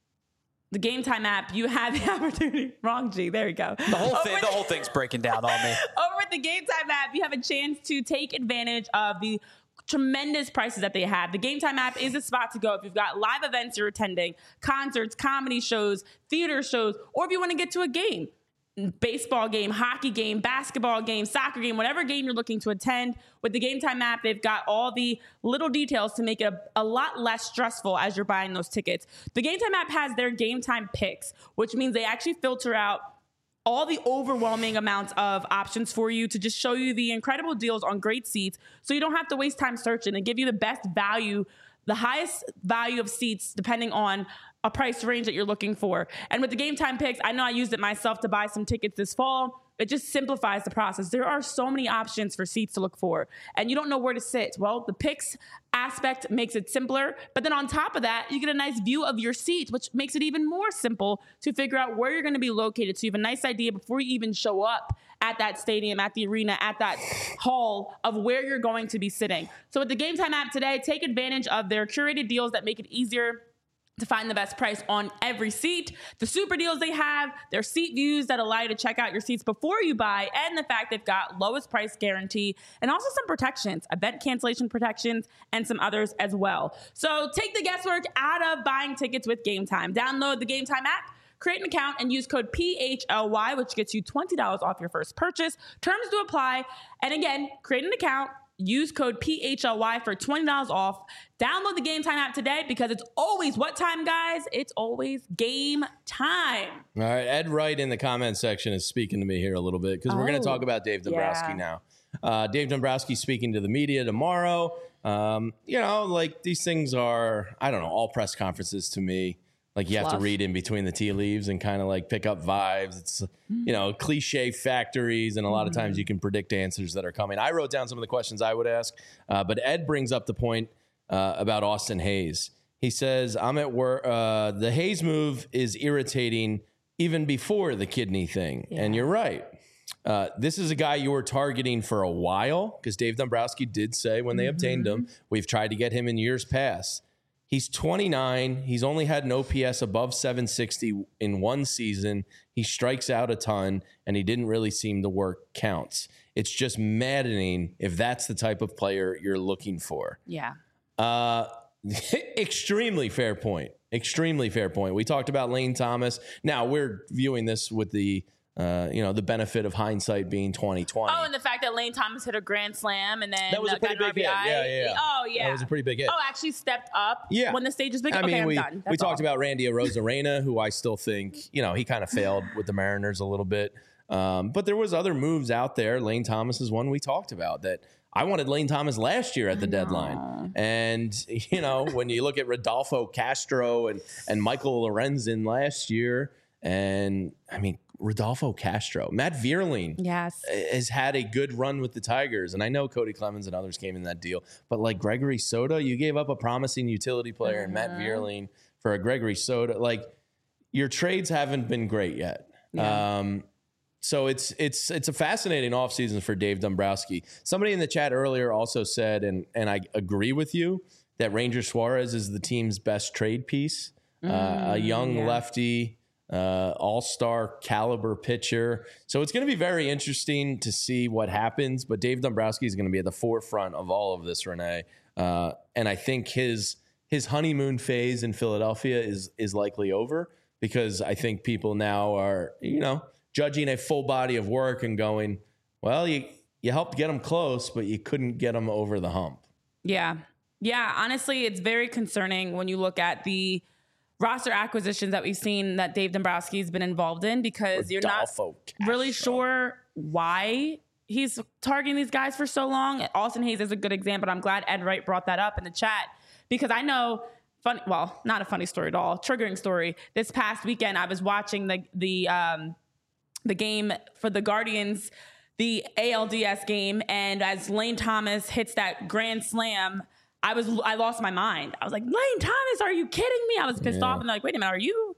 Game Time app, you have the opportunity. Wrong G. There we go. The whole thing's breaking down on me. Over at the Game Time app, you have a chance to take advantage of the tremendous prices that they have. The Game Time app is a spot to go if you've got live events you're attending, concerts, comedy shows, theater shows, or if you want to get to a game. Baseball game, hockey game, basketball game, soccer game, whatever game you're looking to attend. With the Game Time app, they've got all the little details to make it a lot less stressful as you're buying those tickets. The Game Time app has their Game Time picks, which means they actually filter out all the overwhelming amounts of options for you to just show you the incredible deals on great seats so you don't have to waste time searching. They give you the best value, the highest value of seats depending on a price range that you're looking for. And with the Game Time picks, I know I used it myself to buy some tickets this fall. It just simplifies the process. There are so many options for seats to look for, and you don't know where to sit. Well, the picks aspect makes it simpler, but then on top of that, you get a nice view of your seats, which makes it even more simple to figure out where you're going to be located. So you have a nice idea before you even show up at that stadium, at the arena, at that hall of where you're going to be sitting. So with the Game Time app today, take advantage of their curated deals that make it easier to find the best price on every seat, the super deals they have, their seat views that allow you to check out your seats before you buy, and the fact they've got lowest price guarantee, and also some protections, event cancellation protections, and some others as well. So take the guesswork out of buying tickets with Game Time. Download the Game Time app, create an account, and use code PHLY, which gets you $20 off your first purchase. Terms do apply. And again, create an account, Use code PHLY for $20 off. Download the Game Time app today because it's always what time, guys? It's always game time. All right. Ed Wright in the comment section is speaking to me here a little bit because we're going to talk about Dave Dombrowski now. Dave Dombrowski speaking to the media tomorrow. Like these things are, I don't know, all press conferences to me. Like you have to read in between the tea leaves and kind of like pick up vibes. It's, cliche factories. And a lot of times you can predict answers that are coming. I wrote down some of the questions I would ask. But Ed brings up the point about Austin Hayes. He says, I'm at work. The Hayes move is irritating even before the kidney thing. Yeah. And you're right. This is a guy you were targeting for a while because Dave Dombrowski did say when they obtained him, we've tried to get him in years past. He's 29. He's only had an OPS above 760 in one season. He strikes out a ton, and he didn't really seem to work counts. It's just maddening if that's the type of player you're looking for. Yeah. Extremely fair point. Extremely fair point. We talked about Lane Thomas. Now, we're viewing this with the benefit of hindsight being 2020. Oh, and the fact that Lane Thomas hit a grand slam and then that was a pretty big hit. Yeah. Oh, yeah. That was a pretty big hit. Oh, actually stepped up when the stage is big. I mean, I'm we done. We talked about Randy Arozarena, who I still think, he kind of failed with the Mariners a little bit. But there was other moves out there. Lane Thomas is one we talked about that I wanted Lane Thomas last year at the deadline. And, when you look at Rodolfo Castro and Michael Lorenzen last year, and I mean, Rodolfo Castro, Matt Vierling has had a good run with the Tigers. And I know Cody Clemens and others came in that deal. But like Gregory Soto, you gave up a promising utility player in Matt Vierling for a Gregory Soto. Like your trades haven't been great yet. Yeah. So it's a fascinating offseason for Dave Dombrowski. Somebody in the chat earlier also said, and I agree with you, that Ranger Suarez is the team's best trade piece. A young lefty, all-star caliber pitcher. So it's going to be very interesting to see what happens. But Dave Dombrowski is going to be at the forefront of all of this, Renee. And I think his honeymoon phase in Philadelphia is likely over because I think people now are, judging a full body of work and going, well, you helped get them close, but you couldn't get them over the hump. Yeah. Yeah. Honestly, it's very concerning when you look at the roster acquisitions that we've seen that Dave Dombrowski has been involved in because you're not really sure why he's targeting these guys for so long. Austin Hayes is a good example. I'm glad Ed Wright brought that up in the chat because I know not a funny story at all, triggering story. This past weekend, I was watching the game for the Guardians, the ALDS game. And as Lane Thomas hits that grand slam, I lost my mind. I was like, Lane Thomas, are you kidding me? I was pissed off. And they're like, wait a minute, aren't you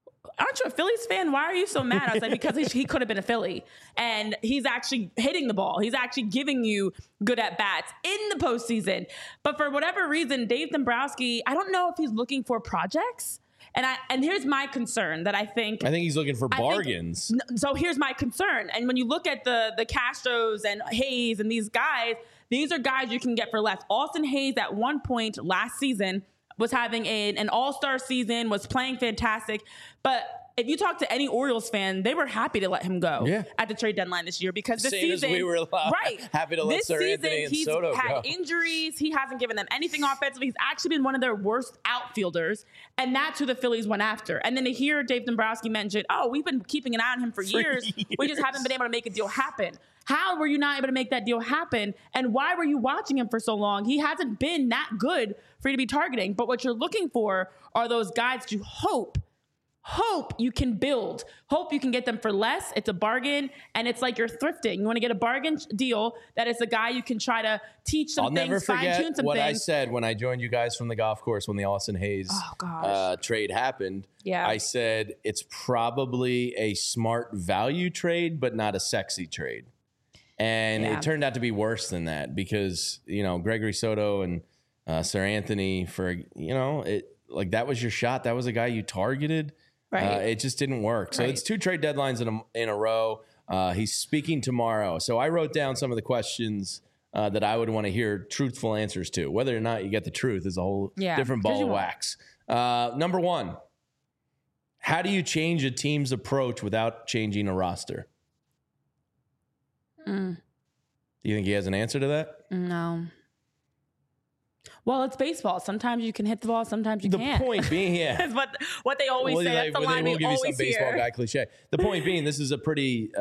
a Phillies fan? Why are you so mad? I was like, because he could have been a Philly. And he's actually hitting the ball. He's actually giving you good at-bats in the postseason. But for whatever reason, Dave Dombrowski, I don't know if he's looking for projects. And here's my concern that I think he's looking for bargains. So here's my concern. And when you look at the Castros and Hayes and these guys, these are guys you can get for less. Austin Hayes at one point last season was having an all-star season, was playing fantastic. But if you talk to any Orioles fan, they were happy to let him go at the trade deadline this year because this season, as we were happy to let Sir Anthony and Soto go. He's had injuries. He hasn't given them anything offensively. He's actually been one of their worst outfielders, and that's who the Phillies went after. And then to hear Dave Dombrowski mention, we've been keeping an eye on him for years. We just haven't been able to make a deal happen. How were you not able to make that deal happen? And why were you watching him for so long? He hasn't been that good for you to be targeting. But what you're looking for are those guys you hope you can build. Hope you can get them for less. It's a bargain. And it's like you're thrifting. You want to get a bargain deal that is a guy you can try to teach some things, fine-tune some what things. I said when I joined you guys from the golf course when the Austin Hayes trade happened. Yeah. I said it's probably a smart value trade, but not a sexy trade. And it turned out to be worse than that because, Gregory Soto and Sir Anthony that was your shot. That was a guy you targeted. Right. It just didn't work. So it's two trade deadlines in a row. He's speaking tomorrow. So I wrote down some of the questions that I would want to hear truthful answers to. Whether or not you get the truth is a whole different ball of wax. Number one, how do you change a team's approach without changing a roster? Do you think he has an answer to that? No. Well, it's baseball. Sometimes you can hit the ball, sometimes you The can't. point being, yeah. That's what they always say. That's the line we give you some always baseball hear. guy cliche. The point being, this is a pretty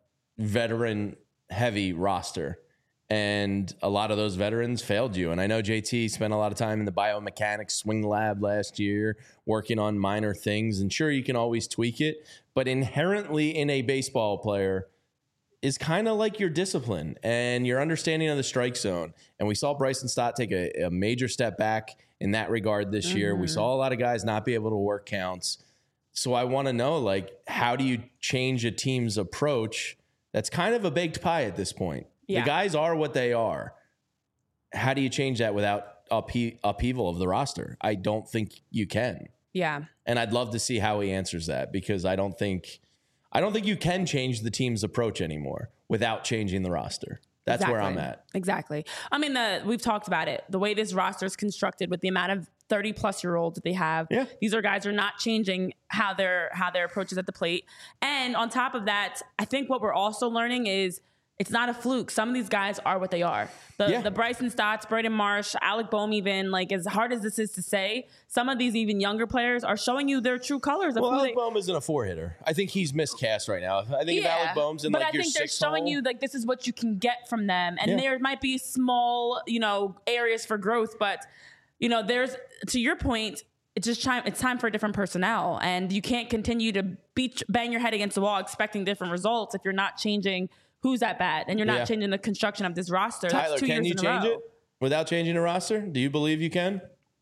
veteran-heavy roster, and a lot of those veterans failed you. And I know JT spent a lot of time in the biomechanics swing lab last year working on minor things, and sure, you can always tweak it, but inherently in a baseball player is kind of like your discipline and your understanding of the strike zone. And we saw Bryson Stott take a major step back in that regard this year. We saw a lot of guys not be able to work counts. So I want to know, like, how do you change a team's approach? That's kind of a baked pie at this point. Yeah. The guys are what they are. How do you change that without upheaval of the roster? I don't think you can. Yeah. And I'd love to see how he answers that, because I don't think you can change the team's approach anymore without changing the roster. That's where I'm at. Exactly. I mean, we've talked about it. The way this roster is constructed with the amount of 30-plus-year-olds that they have, these are guys who are not changing how their approach is at the plate. And on top of that, I think what we're also learning is it's not a fluke. Some of these guys are what they are. The Bryson Stotts, Braden Marsh, Alec Boehm, even, like, as hard as this is to say, some of these even younger players are showing you their true colors. Of Alec Boehm isn't a 4-hitter. I think he's miscast right now. I think if Alec Boehm's in, like, your 6th hole. But I think they're showing you, like, this is what you can get from them. And there might be small, areas for growth. But, there's, to your point, it's time for a different personnel. And you can't continue to bang your head against the wall expecting different results if you're not changing who's at bat, and you're not changing the construction of this roster. Tyler, that's 2 years can you in a change row. it without changing the roster? Do you believe you can?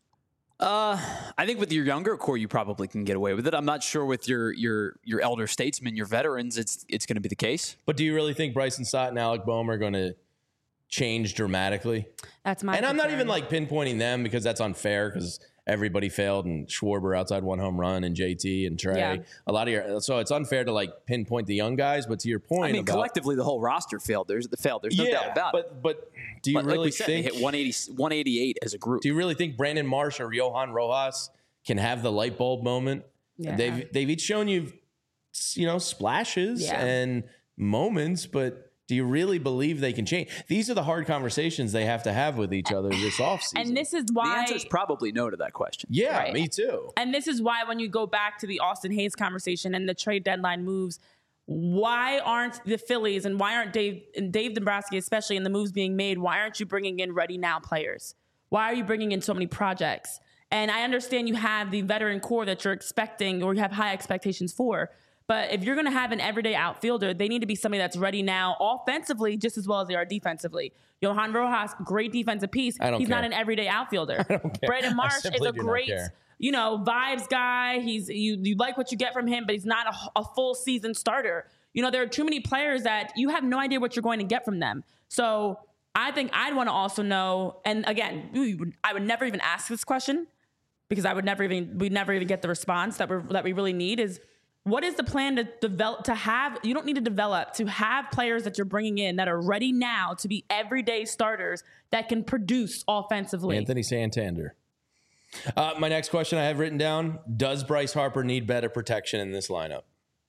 I think with your younger core, you probably can get away with it. I'm not sure with your elder statesmen, your veterans, it's going to be the case. But do you really think Bryson Stott and Alec Boehm are going to change dramatically? That's my And I'm not concern. even, like, pinpointing them, because that's unfair, because everybody failed, and Schwarber outside one home run, and JT and Trey. Yeah. So it's unfair to, like, pinpoint the young guys. But to your point, I mean, collectively, the whole roster failed. There's no doubt about it. But do you really like we said, think they hit 188 as a group? Do you really think Brandon Marsh or Johan Rojas can have the light bulb moment? Yeah. They've each shown you, splashes and moments, but do you really believe they can change? These are the hard conversations they have to have with each other this offseason. And this is The why answer is probably no to that question. Yeah, Right. me too. And this is why when you go back to the Austin Hayes conversation and the trade deadline moves, why aren't the Phillies and why aren't Dave Dombrowski, especially in the moves being made, why aren't you bringing in ready now players? Why are you bringing in so many projects? And I understand you have the veteran core that you're expecting or you have high expectations for. But if you're going to have an everyday outfielder, they need to be somebody that's ready now offensively just as well as they are defensively. Johan Rojas, great defensive piece. He's not an everyday outfielder. Braden Marsh is a great, vibes guy. You like what you get from him, but he's not a full season starter. There are too many players that you have no idea what you're going to get from them. So I think I'd want to also know, and again, I would never even ask this question because we'd never even get the response that we really need is, what is the plan to develop, to have, you don't need to develop, to have players that you're bringing in that are ready now to be everyday starters that can produce offensively? Anthony Santander. My next question I have written down, does Bryce Harper need better protection in this lineup?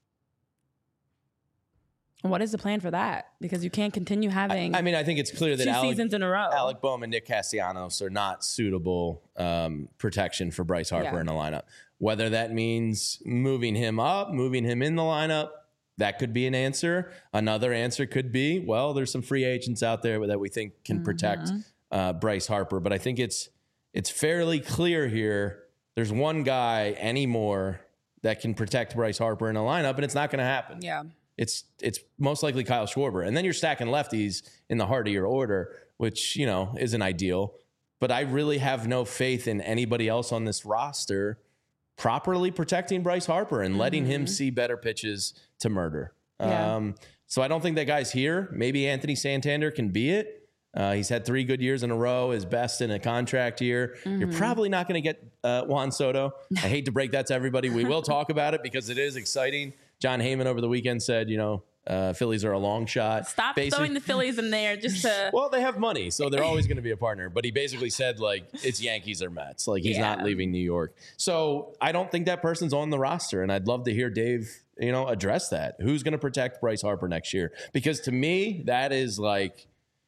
What is the plan for that? Because you can't continue having I mean, I think it's clear that 2 seasons in a row. Alec Boehm and Nick Castellanos are not suitable protection for Bryce Harper in a lineup. Whether that means moving him up, moving him in the lineup, that could be an answer. Another answer could be, well, there's some free agents out there that we think can protect Bryce Harper. But I think it's fairly clear here. There's one guy anymore that can protect Bryce Harper in a lineup, and it's not going to happen. Yeah. It's most likely Kyle Schwarber. And then you're stacking lefties in the heart of your order, which, isn't ideal. But I really have no faith in anybody else on this roster properly protecting Bryce Harper and letting him see better pitches to murder. Yeah. So I don't think that guy's here. Maybe Anthony Santander can be it. He's had 3 good years in a row, his best in a contract year. You're probably not going to get Juan Soto. I hate to break that to everybody. We will talk about it because it is exciting. John Heyman over the weekend said, Phillies are a long shot. Stop throwing the Phillies in there just to... Well, they have money, so they're always going to be a partner. But he basically said, it's Yankees or Mets. He's not leaving New York. So I don't think that person's on the roster, and I'd love to hear Dave, address that. Who's going to protect Bryce Harper next year? Because to me, that is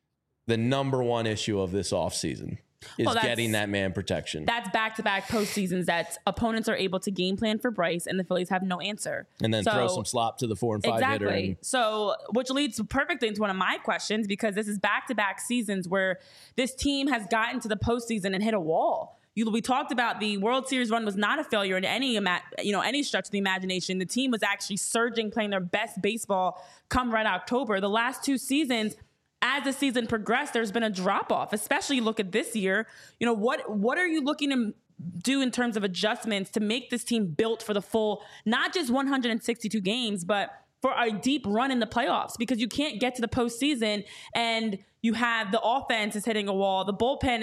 the number one issue of this offseason is getting that man protection. That's back-to-back postseasons that opponents are able to game plan for Bryce, and the Phillies have no answer. And then throw some slop to the 4 and 5 hitter. Exactly. So, which leads perfectly into one of my questions, because this is back-to-back seasons where this team has gotten to the postseason and hit a wall. We talked about the World Series run was not a failure in any stretch of the imagination. The team was actually surging, playing their best baseball come Red October. The last 2 seasons, as the season progressed, there's been a drop off. Especially you look at this year. What are you looking to do in terms of adjustments to make this team built for the full, not just 162 games, but for a deep run in the playoffs? Because you can't get to the postseason and you have the offense is hitting a wall. The bullpen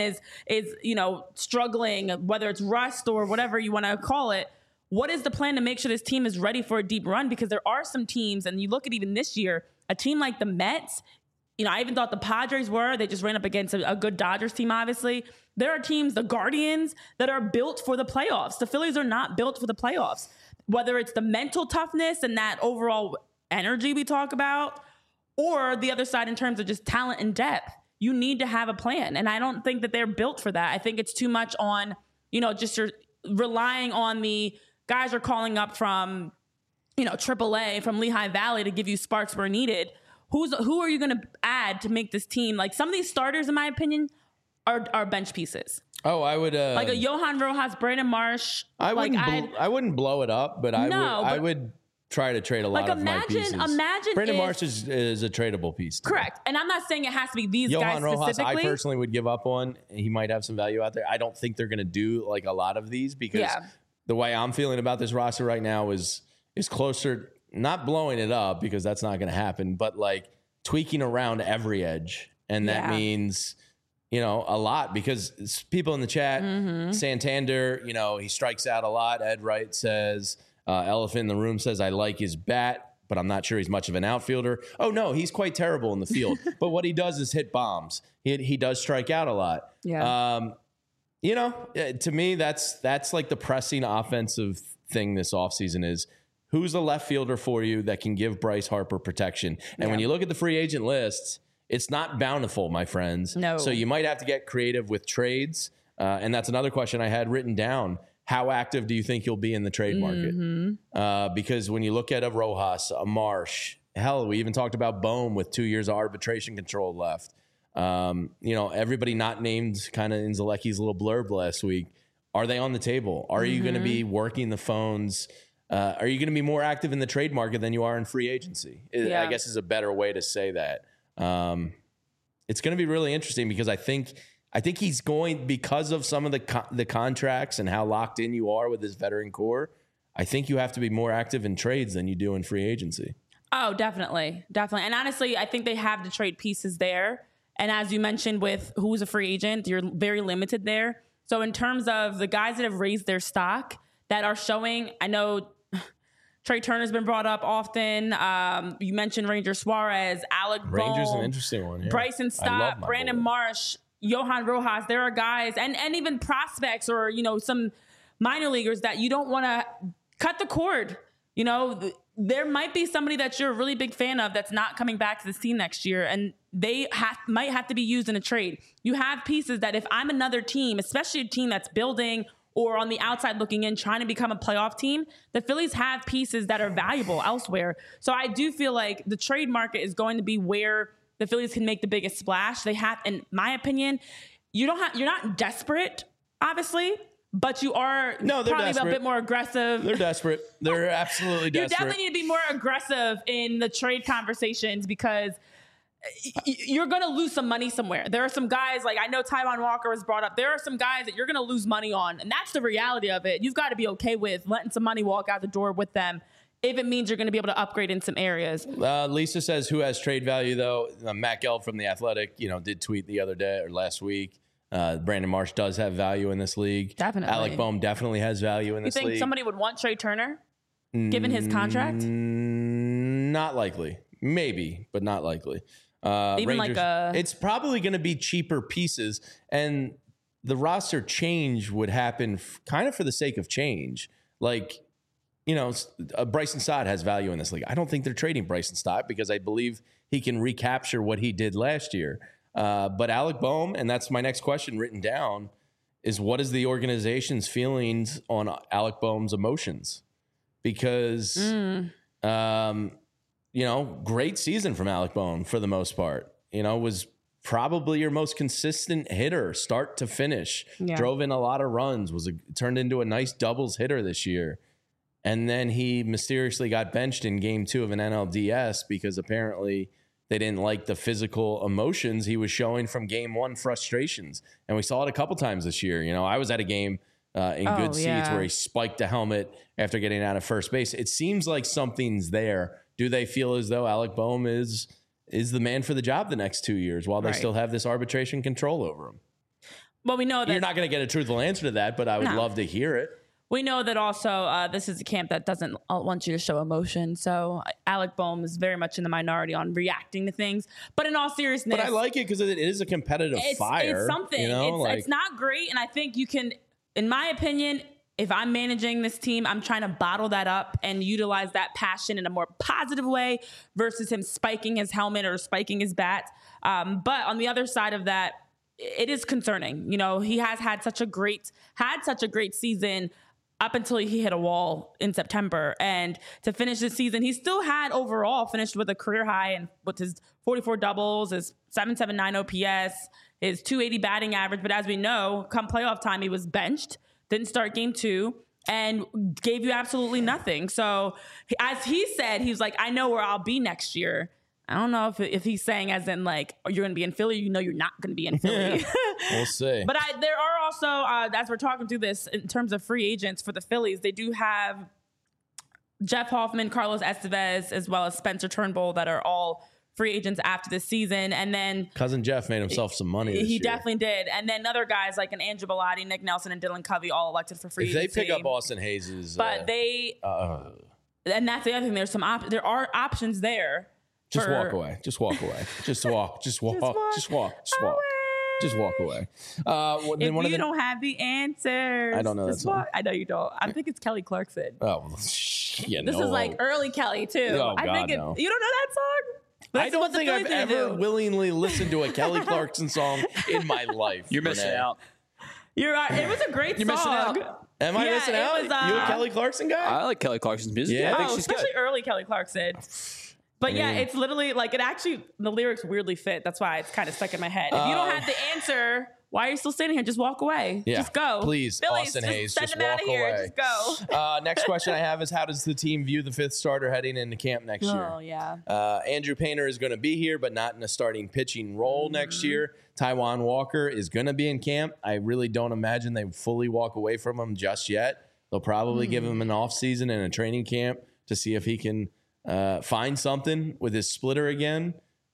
is struggling, whether it's rust or whatever you want to call it. What is the plan to make sure this team is ready for a deep run? Because there are some teams, and you look at even this year, a team like the Mets, I even thought the Padres were. They just ran up against a good Dodgers team, obviously. There are teams, the Guardians, that are built for the playoffs. The Phillies are not built for the playoffs. Whether it's the mental toughness and that overall energy we talk about, or the other side in terms of just talent and depth, you need to have a plan. And I don't think that they're built for that. I think it's too much on, just you're relying on the guys are calling up from, AAA, from Lehigh Valley to give you sparks where needed. Who are you going to add to make this team? Like, some of these starters, in my opinion, are bench pieces. Oh, I would like a Johan Rojas, Brandon Marsh. I wouldn't blow it up, but I would try to trade a lot of my pieces. Imagine Brandon Marsh is a tradable piece. Correct. And I'm not saying it has to be these Johan guys Rojas, specifically. I personally would give up on. He might have some value out there. I don't think they're going to do like a lot of these, because the way I'm feeling about this roster right now is closer, not blowing it up, because that's not going to happen, but like tweaking around every edge. And that means, a lot, because people in the chat, Santander, he strikes out a lot. Ed Wright says, Elephant in the Room says, I like his bat, but I'm not sure he's much of an outfielder. Oh, no, he's quite terrible in the field. But what he does is hit bombs. He does strike out a lot. Yeah. To me, that's like the pressing offensive thing this offseason is, who's the left fielder for you that can give Bryce Harper protection? And when you look at the free agent list, it's not bountiful, my friends. No. So you might have to get creative with trades. And that's another question I had written down. How active do you think you'll be in the trade market? Because when you look at a Rojas, a Marsh, hell, we even talked about Bohm with 2 years of arbitration control left. Everybody not named kind of in Zalecki's little blurb last week. Are they on the table? Are you going to be working the phones? Are you going to be more active in the trade market than you are in free agency? I guess is a better way to say that. It's going to be really interesting, because I think he's going, because of some of the contracts and how locked in you are with this veteran core, I think you have to be more active in trades than you do in free agency. Oh, definitely. And honestly, I think they have the trade pieces there. And as you mentioned with who's a free agent, you're very limited there. So in terms of the guys that have raised their stock that are showing, I know Trey Turner's been brought up often. You mentioned Ranger Suarez, Alec Bohm. Ranger's an interesting one. Yeah. Bryson Stott, Brandon Marsh, Johan Rojas. There are guys, and even prospects or, some minor leaguers that you don't want to cut the cord. There might be somebody that you're a really big fan of that's not coming back to this team next year, and they might have to be used in a trade. You have pieces that if I'm another team, especially a team that's building or on the outside looking in, trying to become a playoff team, the Phillies have pieces that are valuable elsewhere. So I do feel like the trade market is going to be where the Phillies can make the biggest splash. They have, in my opinion, you're not desperate, obviously, but you are probably desperate. a bit more aggressive. They're desperate. They're absolutely desperate. You definitely need to be more aggressive in the trade conversations, because you're going to lose some money somewhere. There are some guys, like I know Taijuan Walker was brought up. There are some guys that you're going to lose money on, and that's the reality of it. You've got to be okay with letting some money walk out the door with them if it means you're going to be able to upgrade in some areas. Lisa says, who has trade value, though? Matt Gelb from The Athletic, did tweet the other day or last week. Brandon Marsh does have value in this league. Definitely. Alec Bohm definitely has value in this league. You think somebody would want Trey Turner, given his contract? Not likely. Maybe, but not likely. Even Rangers, it's probably going to be cheaper pieces, and the roster change would happen kind of for the sake of change. Like, Bryson Stott has value in this league. I don't think they're trading Bryson Stott, because I believe he can recapture what he did last year. But Alec Boehm, and that's my next question written down, is what is the organization's feelings on Alec Boehm's emotions? Because, great season from Alec Boehm for the most part. Was probably your most consistent hitter, start to finish. Yeah. Drove in a lot of runs. Turned into a nice doubles hitter this year. And then he mysteriously got benched in game 2 of an NLDS because apparently they didn't like the physical emotions he was showing from game 1 frustrations. And we saw it a couple times this year. I was at a game in good seats where he spiked a helmet after getting out of first base. It seems like something's there. Do they feel as though Alec Boehm is the man for the job the next 2 years while they still have this arbitration control over him? Well, we know that you're not going to get a truthful answer to that, but I would love to hear it. We know that also this is a camp that doesn't want you to show emotion. So Alec Boehm is very much in the minority on reacting to things. But in all seriousness, but I like it because it is a competitive fire. It's something. It's not great, and I think you can, in my opinion, if I'm managing this team, I'm trying to bottle that up and utilize that passion in a more positive way versus him spiking his helmet or spiking his bat. But on the other side of that, it is concerning. He has had such a great season up until he hit a wall in September. And to finish the season, he still had overall finished with a career high and with his 44 doubles, his 779 OPS, his 280 batting average. But as we know, come playoff time, he was benched, didn't start game 2, and gave you absolutely nothing. So as he said, he was like, I know where I'll be next year. I don't know if he's saying as in like, you're going to be in Philly, you're not going to be in Philly. We'll see. But there are also, as we're talking through this, in terms of free agents for the Phillies, they do have Jeff Hoffman, Carlos Estevez, as well as Spencer Turnbull that are all free agents after this season. And then Cousin Jeff made himself some money this year. He definitely did. And then other guys like an Andrew Bellotti, Nick Nelson, and Dylan Covey all elected for free agency. If they pick up Austin Hayes'... But and that's the other thing. There are options there. Just walk away. Just walk away. Just walk away. If you don't have the answers, I don't know that song. I know you don't. I think it's Kelly Clarkson. Oh, yeah, this is like early Kelly too. Oh, I think no. You don't know that song? I don't think I've ever willingly listened to a Kelly Clarkson song in my life. You're missing out. You're right. It was a great You're song. missing out. Am I missing out? You a Kelly Clarkson guy? I like Kelly Clarkson's music. Yeah. I think she's especially good. early Kelly Clarkson. But yeah, it's literally like the lyrics weirdly fit. That's why it's kind of stuck in my head. If you don't have the answer, why are you still standing here? Just walk away. Yeah. Just go. Please, Phillies, Austin Hayes, send just him out walk of here. away. Just go. Next question I have is, how does the team view the 5th starter heading into camp next year? Oh, yeah. Andrew Painter is going to be here, but not in a starting pitching role next year. Taijuan Walker is going to be in camp. I really don't imagine they fully walk away from him just yet. They'll probably give him an offseason and a training camp to see if he can find something with his splitter again.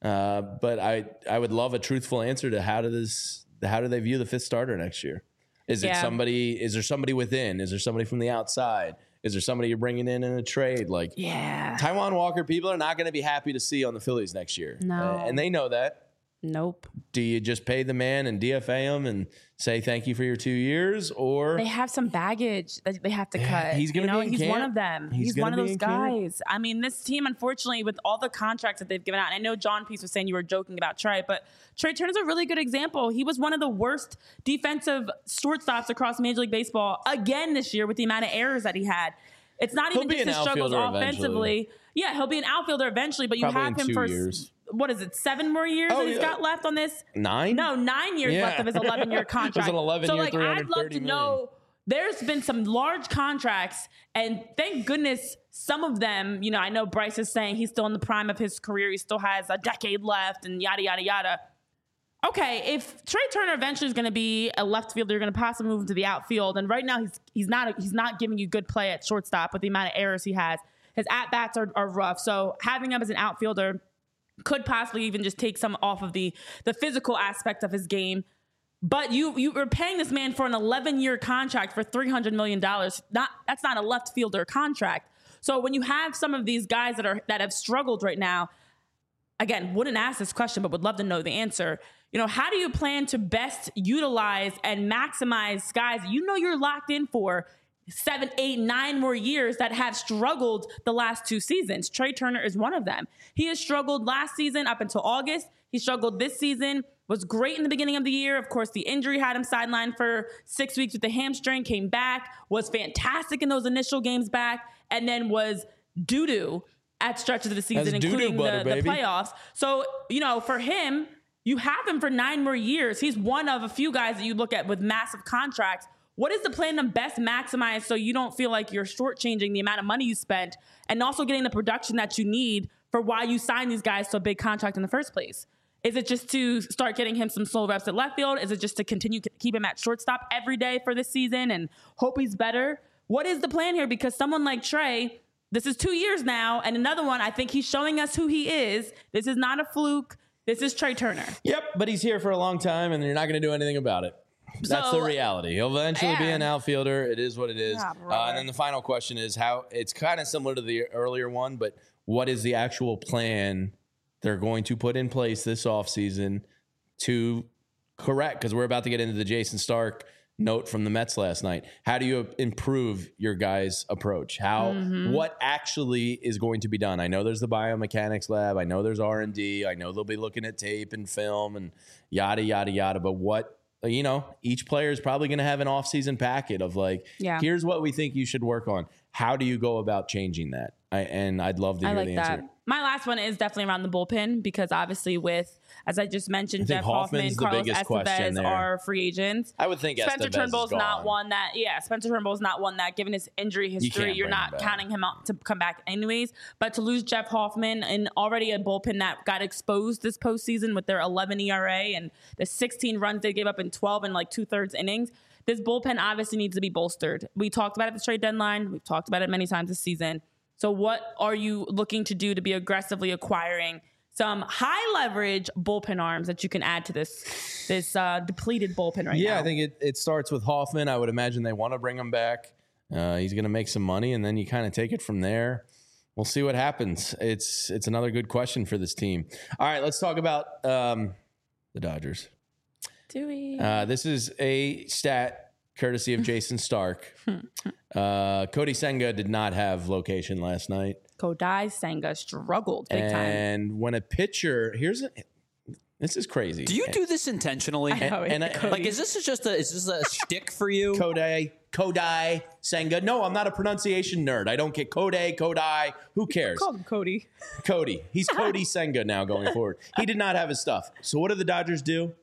But I would love a truthful answer to how do they view the 5th starter next year? Is there somebody within? Is there somebody from the outside? Is there somebody you're bringing in a trade? Like, Taijuan Walker, people are not going to be happy to see on the Phillies next year. No. And they know that. Nope. Do you just pay the man and DFA him and say thank you for your 2 years, or they have some baggage that they have to cut? He's going to be in he's camp. one of them. He's one of those guys. I mean, this team, unfortunately, with all the contracts that they've given out, and I know John Peace was saying you were joking about Trey, but Trey Turner's a really good example. He was one of the worst defensive shortstops across Major League Baseball again this year with the amount of errors that he had. It's not even just his struggles offensively. Yeah, he'll be an outfielder eventually, but you have him for 2 years. What is it, 7 more years that he's got left on this? 9? No, 9 years left of his 11-year contract. It was an 11-year, so, I'd love to know. There's been some large contracts, and thank goodness some of them, I know Bryce is saying he's still in the prime of his career. He still has a decade left and yada, yada, yada. Okay, if Trey Turner eventually is going to be a left fielder, you're going to possibly move him to the outfield. And right now he's not giving you good play at shortstop with the amount of errors he has. His at-bats are rough. So having him as an outfielder could possibly even just take some off of the physical aspect of his game. But you were paying this man for an 11-year contract for $300 million. That's not a left fielder contract. So when you have some of these guys that have struggled right now, again, wouldn't ask this question, but would love to know the answer. How do you plan to best utilize and maximize guys you're locked in for 7, 8, 9 more years that have struggled the last 2 seasons? Trey Turner is one of them. He has struggled last season up until August. He struggled this season was great in the beginning of the year. Of course, the injury had him sidelined for 6 weeks with the hamstring, came back, was fantastic in those initial games back, and then was doo-doo at stretches of the season, including the playoffs. So, for him, you have him for 9 more years. He's one of a few guys that you look at with massive contracts. What is the plan to best maximize so you don't feel like you're shortchanging the amount of money you spent and also getting the production that you need for why you signed these guys to a big contract in the first place? Is it just to start getting him some slow reps at left field? Is it just to continue to keep him at shortstop every day for this season and hope he's better? What is the plan here? Because someone like Trey, this is 2 years now, and another one, I think he's showing us who he is. This is not a fluke. This is Trey Turner. Yep, but he's here for a long time, and you're not going to do anything about it. That's the reality. He'll eventually be an outfielder. It is what it is. And then the final question is how it's kind of similar to the earlier one, but what is the actual plan they're going to put in place this offseason to correct? Because we're about to get into the Jason Stark note from the Mets last night. How do you improve your guys' approach? What actually is going to be done? I know there's the biomechanics lab. I know there's R&D. I know they'll be looking at tape and film and yada, yada, yada. But what, each player is probably going to have an offseason packet of here's what we think you should work on. How do you go about changing that? I'd love to hear the answer. My last one is definitely around the bullpen because obviously with, as I just mentioned, Jeff Hoffman, Carlos Estevez are free agents. I would think Spencer Turnbull's not one that, Spencer Turnbull's not one that, given his injury history, you're not counting him out to come back anyways. But to lose Jeff Hoffman and already a bullpen that got exposed this postseason with their 11 ERA and the 16 runs they gave up in 12 and 2/3 innings, this bullpen obviously needs to be bolstered. We talked about it at the trade deadline. We've talked about it many times this season. So what are you looking to do to be aggressively acquiring some high leverage bullpen arms that you can add to this depleted bullpen right now? Yeah, I think it starts with Hoffman. I would imagine they want to bring him back. He's going to make some money, and then you kind of take it from there. We'll see what happens. It's another good question for this team. All right, let's talk about the Dodgers. Do we? This is a stat courtesy of Jason Stark. Cody Senga did not have location last night. Kodai Senga struggled big time. And when a pitcher, this is crazy. Do you do this intentionally? Is this just a shtick for you? Kodai Senga. No, I'm not a pronunciation nerd. I don't get Kodai. Who cares? Call him Cody. Cody. He's Cody Senga now going forward. He did not have his stuff. So what do the Dodgers do?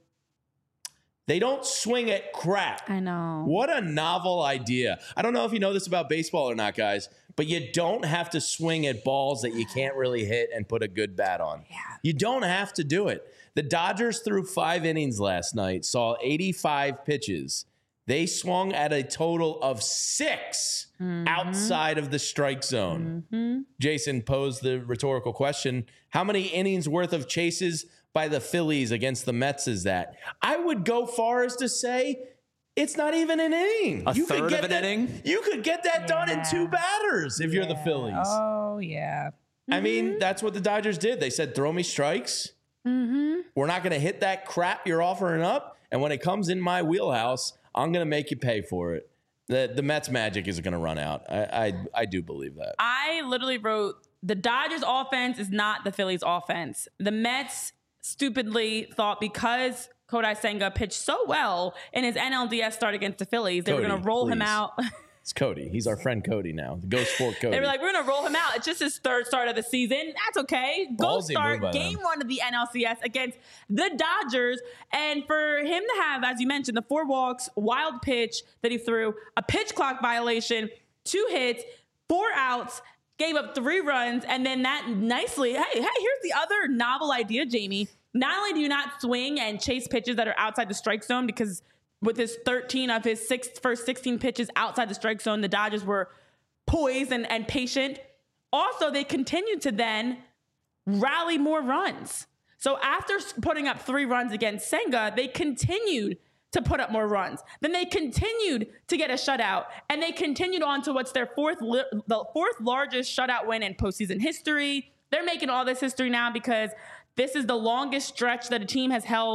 They don't swing at crap. I know. What a novel idea. I don't know if you know this about baseball or not, guys, but you don't have to swing at balls that you can't really hit and put a good bat on. Yeah. You don't have to do it. The Dodgers threw 5 innings last night, saw 85 pitches. They swung at a total of 6 outside of the strike zone. Jason posed the rhetorical question, how many innings worth of chases by the Phillies against the Mets is that? I would go far as to say it's not even an inning. A third of an inning? You could get that done in 2 batters if you're the Phillies. Oh, yeah. I mean, that's what the Dodgers did. They said, throw me strikes. We're not going to hit that crap you're offering up. And when it comes in my wheelhouse, I'm going to make you pay for it. The Mets magic is going to run out. I do believe that. I literally wrote, the Dodgers offense is not the Phillies offense. The Mets stupidly thought because Kodai Senga pitched so well in his NLDS start against the Phillies, they were going to roll him out. It's Cody. He's our friend Cody now. The Ghost Sport Cody. They were like, we're going to roll him out. It's just his 3rd start of the season. That's okay. Go start game 1 of the NLCS against the Dodgers. And for him to have, as you mentioned, the 4 walks, wild pitch that he threw, a pitch clock violation, 2 hits, 4 outs, gave up 3 runs, and then that nicely, hey, here's the other novel idea, Jamie. Not only do you not swing and chase pitches that are outside the strike zone, because with his 13 of his first 16 pitches outside the strike zone, the Dodgers were poised and patient. Also, they continued to then rally more runs. So after putting up 3 runs against Senga, they continued to put up more runs. Then they continued to get a shutout, and they continued on to what's their the 4th largest shutout win in postseason history. They're making all this history now because this is the longest stretch that a team has held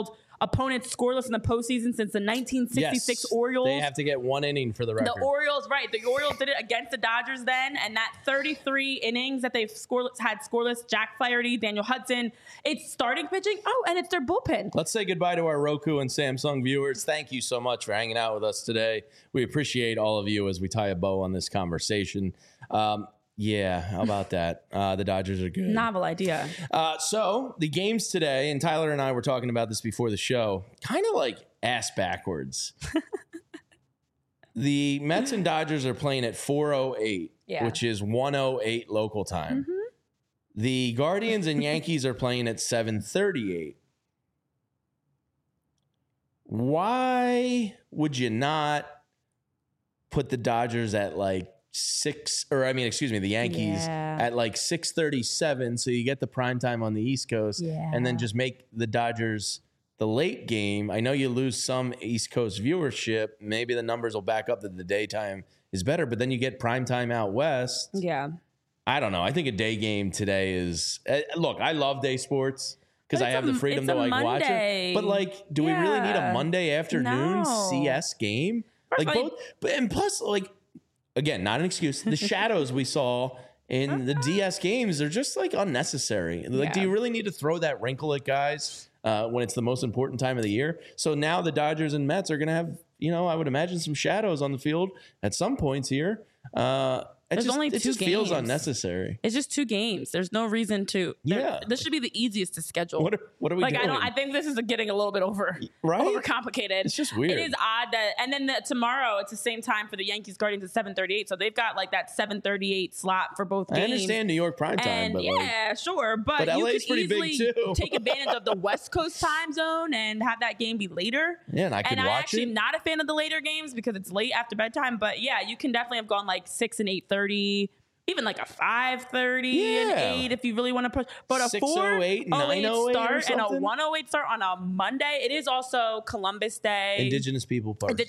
opponents scoreless in the postseason since the 1966 Orioles. They have to get 1 inning for the record. The Orioles, right. The Orioles did it against the Dodgers then, and that 33 innings that they've had scoreless, Jack Flaherty, Daniel Hudson, it's starting pitching. Oh, and it's their bullpen. Let's say goodbye to our Roku and Samsung viewers. Thank you so much for hanging out with us today. We appreciate all of you as we tie a bow on this conversation. Yeah, how about that? The Dodgers are good. Novel idea. So the games today, and Tyler and I were talking about this before the show, kind of like ass backwards. The Mets and Dodgers are playing at 4:08, which is 1:08 local time. Mm-hmm. The Guardians and Yankees are playing at 7:38. Why would you not put the Dodgers at like the Yankees at like 6:37, so you get the prime time on the East Coast, and then just make the Dodgers the late game? I know you lose some East Coast viewership. Maybe the numbers will back up that the daytime is better, but then you get prime time out west. Yeah. I don't know. I think a day game today is look, I love day sports because I have the freedom to like watch it. But like, do we really need a Monday afternoon CS game? Like both, and plus, like, again, not an excuse. The shadows we saw in the DS games are just like unnecessary. Like, do you really need to throw that wrinkle at guys when it's the most important time of the year? So now the Dodgers and Mets are going to have, I would imagine some shadows on the field at some points here. It just feels unnecessary. It's just 2 games. There's no reason to. This should be the easiest to schedule. What are we doing? I think this is getting a little bit overcomplicated. It's just weird. It is odd that, and then tomorrow it's the same time for the Yankees Guardians at 7:38. So they've got like that 7:38 slot for both games. I understand New York prime time, but sure, but you LA's could pretty easily big too. take advantage of the West Coast time zone and have that game be later. Yeah, and I could watch it. I actually am not a fan of the later games because it's late after bedtime. But yeah, you can definitely have gone like 6 and 8:30. Even like a 5:30 and 8 if you really want to push. But a 6:08, 9:08 start and a 1:08 start on a Monday. It is also Columbus Day. Indigenous People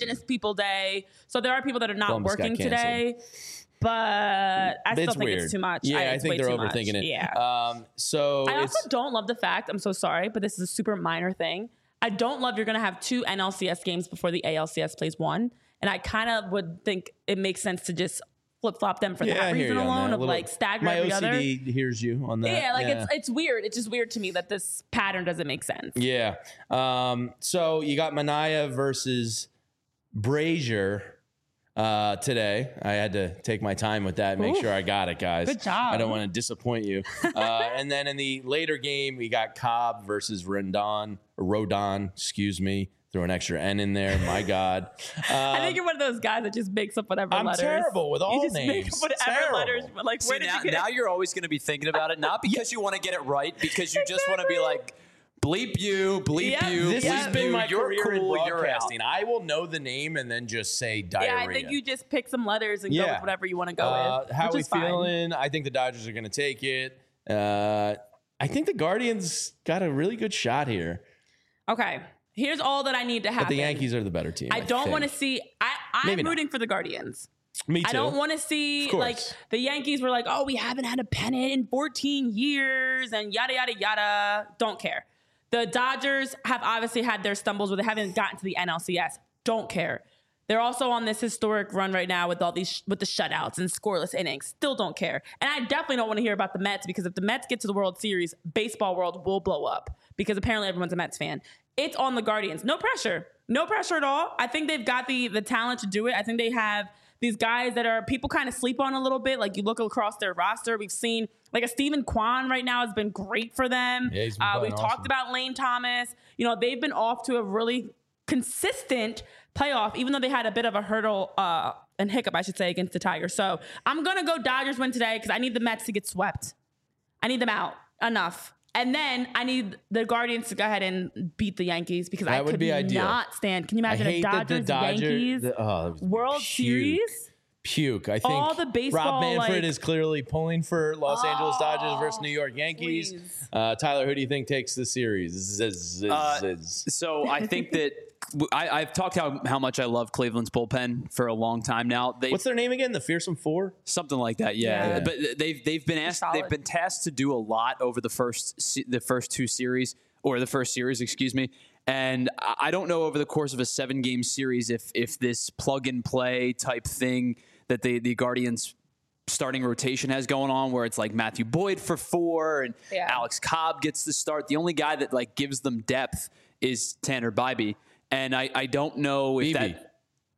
Day. So there are people that are not Columbus working today. But I still think it's too much. Yeah, I think they're overthinking it. Yeah. So I also don't love the fact, I'm so sorry, but this is a super minor thing. I don't love you're going to have 2 NLCS games before the ALCS plays 1. And I kind of would think it makes sense to just flip-flop them for that reason alone of like stagger every other. My OCD hears you on that. Yeah, it's weird. It's just weird to me that this pattern doesn't make sense. Yeah. So you got Manaea versus Brazier today. I had to take my time with that and make sure I got it, guys. Good job. I don't want to disappoint you. And then in the later game, we got Cobb versus Rodon, excuse me. Throw an extra N in there. My God. I think you're one of those guys that just makes up whatever letters. I'm terrible with all names. Make up whatever letters. Like, where did you get now you're always going to be thinking about it, not because you want to get it right, because you just want to be like, bleep you, bleep you, This has been my career cool, in broadcasting. I will know the name and then just say diarrhea. Yeah, I think you just pick some letters and go with whatever you want to go with. How are we feeling? I think the Dodgers are going to take it. I think the Guardians got a really good shot here. Okay. Here's all that I need to happen. But the Yankees are the better team. I don't want to see. I'm rooting for the Guardians. Me too. I don't want to see like the Yankees were like, oh, we haven't had a pennant in 14 years and yada, yada, yada. Don't care. The Dodgers have obviously had their stumbles where they haven't gotten to the NLCS. Don't care. They're also on this historic run right now with all these with the shutouts and scoreless innings. Still don't care. And I definitely don't want to hear about the Mets because if the Mets get to the World Series, baseball world will blow up because apparently everyone's a Mets fan. It's on the Guardians. No pressure. No pressure at all. I think they've got the talent to do it. I think they have these guys that are people kind of sleep on a little bit. Like you look across their roster, we've seen like a Stephen Kwan right now has been great for them. Yeah, he's been playing we've talked about Lane Thomas. They've been off to a really consistent playoff, even though they had a bit of a hurdle and hiccup, I should say, against the Tigers. So I'm going to go Dodgers win today because I need the Mets to get swept. I need them out. Enough. And then I need the Guardians to go ahead and beat the Yankees because I could not stand. Can you imagine a Dodgers-Yankees World Series? Puke. I think all the baseball, Rob Manfred is clearly pulling for Los Angeles Dodgers versus New York Yankees. Tyler, who do you think takes the series? So I think that I've talked how much I love Cleveland's bullpen for a long time now. What's their name again? The Fearsome Four? Something like that, yeah. But they've been asked, they've been tasked to do a lot over the first 2 series, or the first series, excuse me. And I don't know over the course of a 7-game series if this plug and play type thing that the Guardians starting rotation has going on, where it's like Matthew Boyd for 4 and Alex Cobb gets the start. The only guy that like gives them depth is Tanner Bybee. And I don't know if that.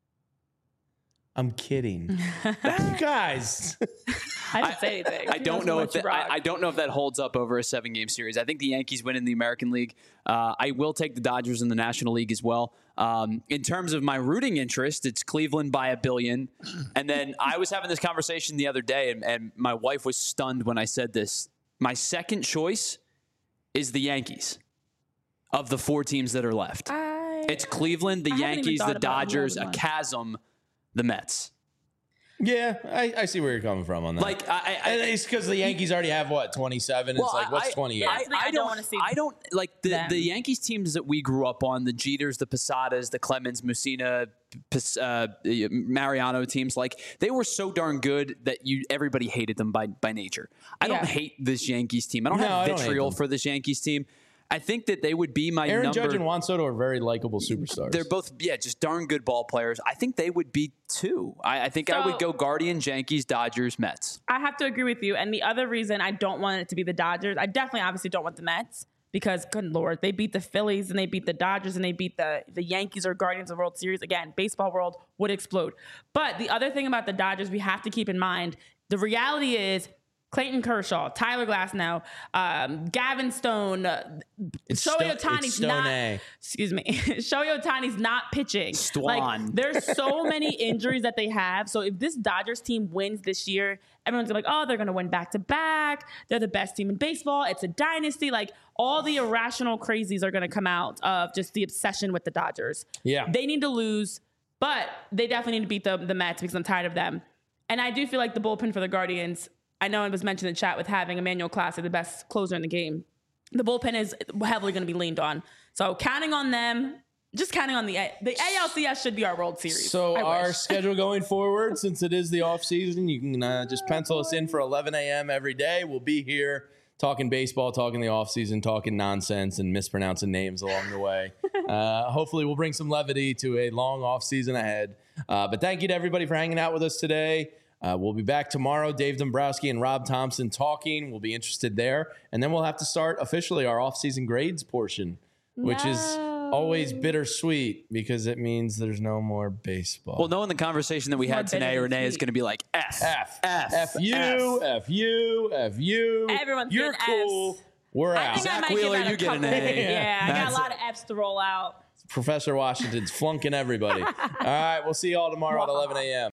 I'm kidding. You guys. I didn't say anything. I don't know if that holds up over a 7-game series. I think the Yankees win in the American League. I will take the Dodgers in the National League as well. In terms of my rooting interest, it's Cleveland by $1 billion. And then I was having this conversation the other day, and my wife was stunned when I said this. My second choice is the Yankees of the 4 teams that are left. It's Cleveland, the Yankees, the Dodgers, a chasm, the Mets. Yeah, I see where you're coming from on that. Like, it's because the Yankees already have 27. It's like, what's 28? I don't want to see. I don't like the Yankees teams that we grew up on, the Jeters, the Posadas, the Clemens, Mussina, Mariano teams. Like, they were so darn good that everybody hated them by nature. I don't hate this Yankees team. I don't have vitriol for this Yankees team. I think that they would be my Aaron Judge and Juan Soto are very likable superstars. They're both, just darn good ball players. I think they would be 2. I think I would go Guardians, Yankees, Dodgers, Mets. I have to agree with you. And the other reason I don't want it to be the Dodgers, I definitely obviously don't want the Mets because, good Lord, they beat the Phillies and they beat the Dodgers and they beat the Yankees or Guardians of the World Series. Again, baseball world would explode. But the other thing about the Dodgers we have to keep in mind, the reality is Clayton Kershaw, Tyler Glasnow, Gavin Stone, Shohei Ohtani's not. Excuse me, Shohei Ohtani's not pitching. Like, there's so many injuries that they have. So if this Dodgers team wins this year, everyone's gonna be like, oh, they're gonna win back to back. They're the best team in baseball. It's a dynasty. Like, all the irrational crazies are gonna come out of just the obsession with the Dodgers. Yeah, they need to lose, but they definitely need to beat the Mets because I'm tired of them. And I do feel like the bullpen for the Guardians. I know it was mentioned in the chat with having Emmanuel Clase, the best closer in the game. The bullpen is heavily going to be leaned on. So counting on them, just counting on the ALCS should be our World Series. So our schedule going forward, since it is the off season, you can just pencil us in for 11 a.m. every day. We'll be here talking baseball, talking the off season, talking nonsense and mispronouncing names along the way. Hopefully we'll bring some levity to a long off season ahead. But thank you to everybody for hanging out with us today. We'll be back tomorrow. Dave Dombrowski and Rob Thompson talking. We'll be interested there. And then we'll have to start officially our off-season grades portion, which is always bittersweet because it means there's no more baseball. Well, knowing the conversation that we had today, Renee is going to be like, F you. Everyone's You're cool. F's. We're out. Zach Wheeler, you get an A. Yeah, I got a lot of F's to roll out. Professor Washington's flunking everybody. All right, we'll see you all tomorrow at 11 a.m.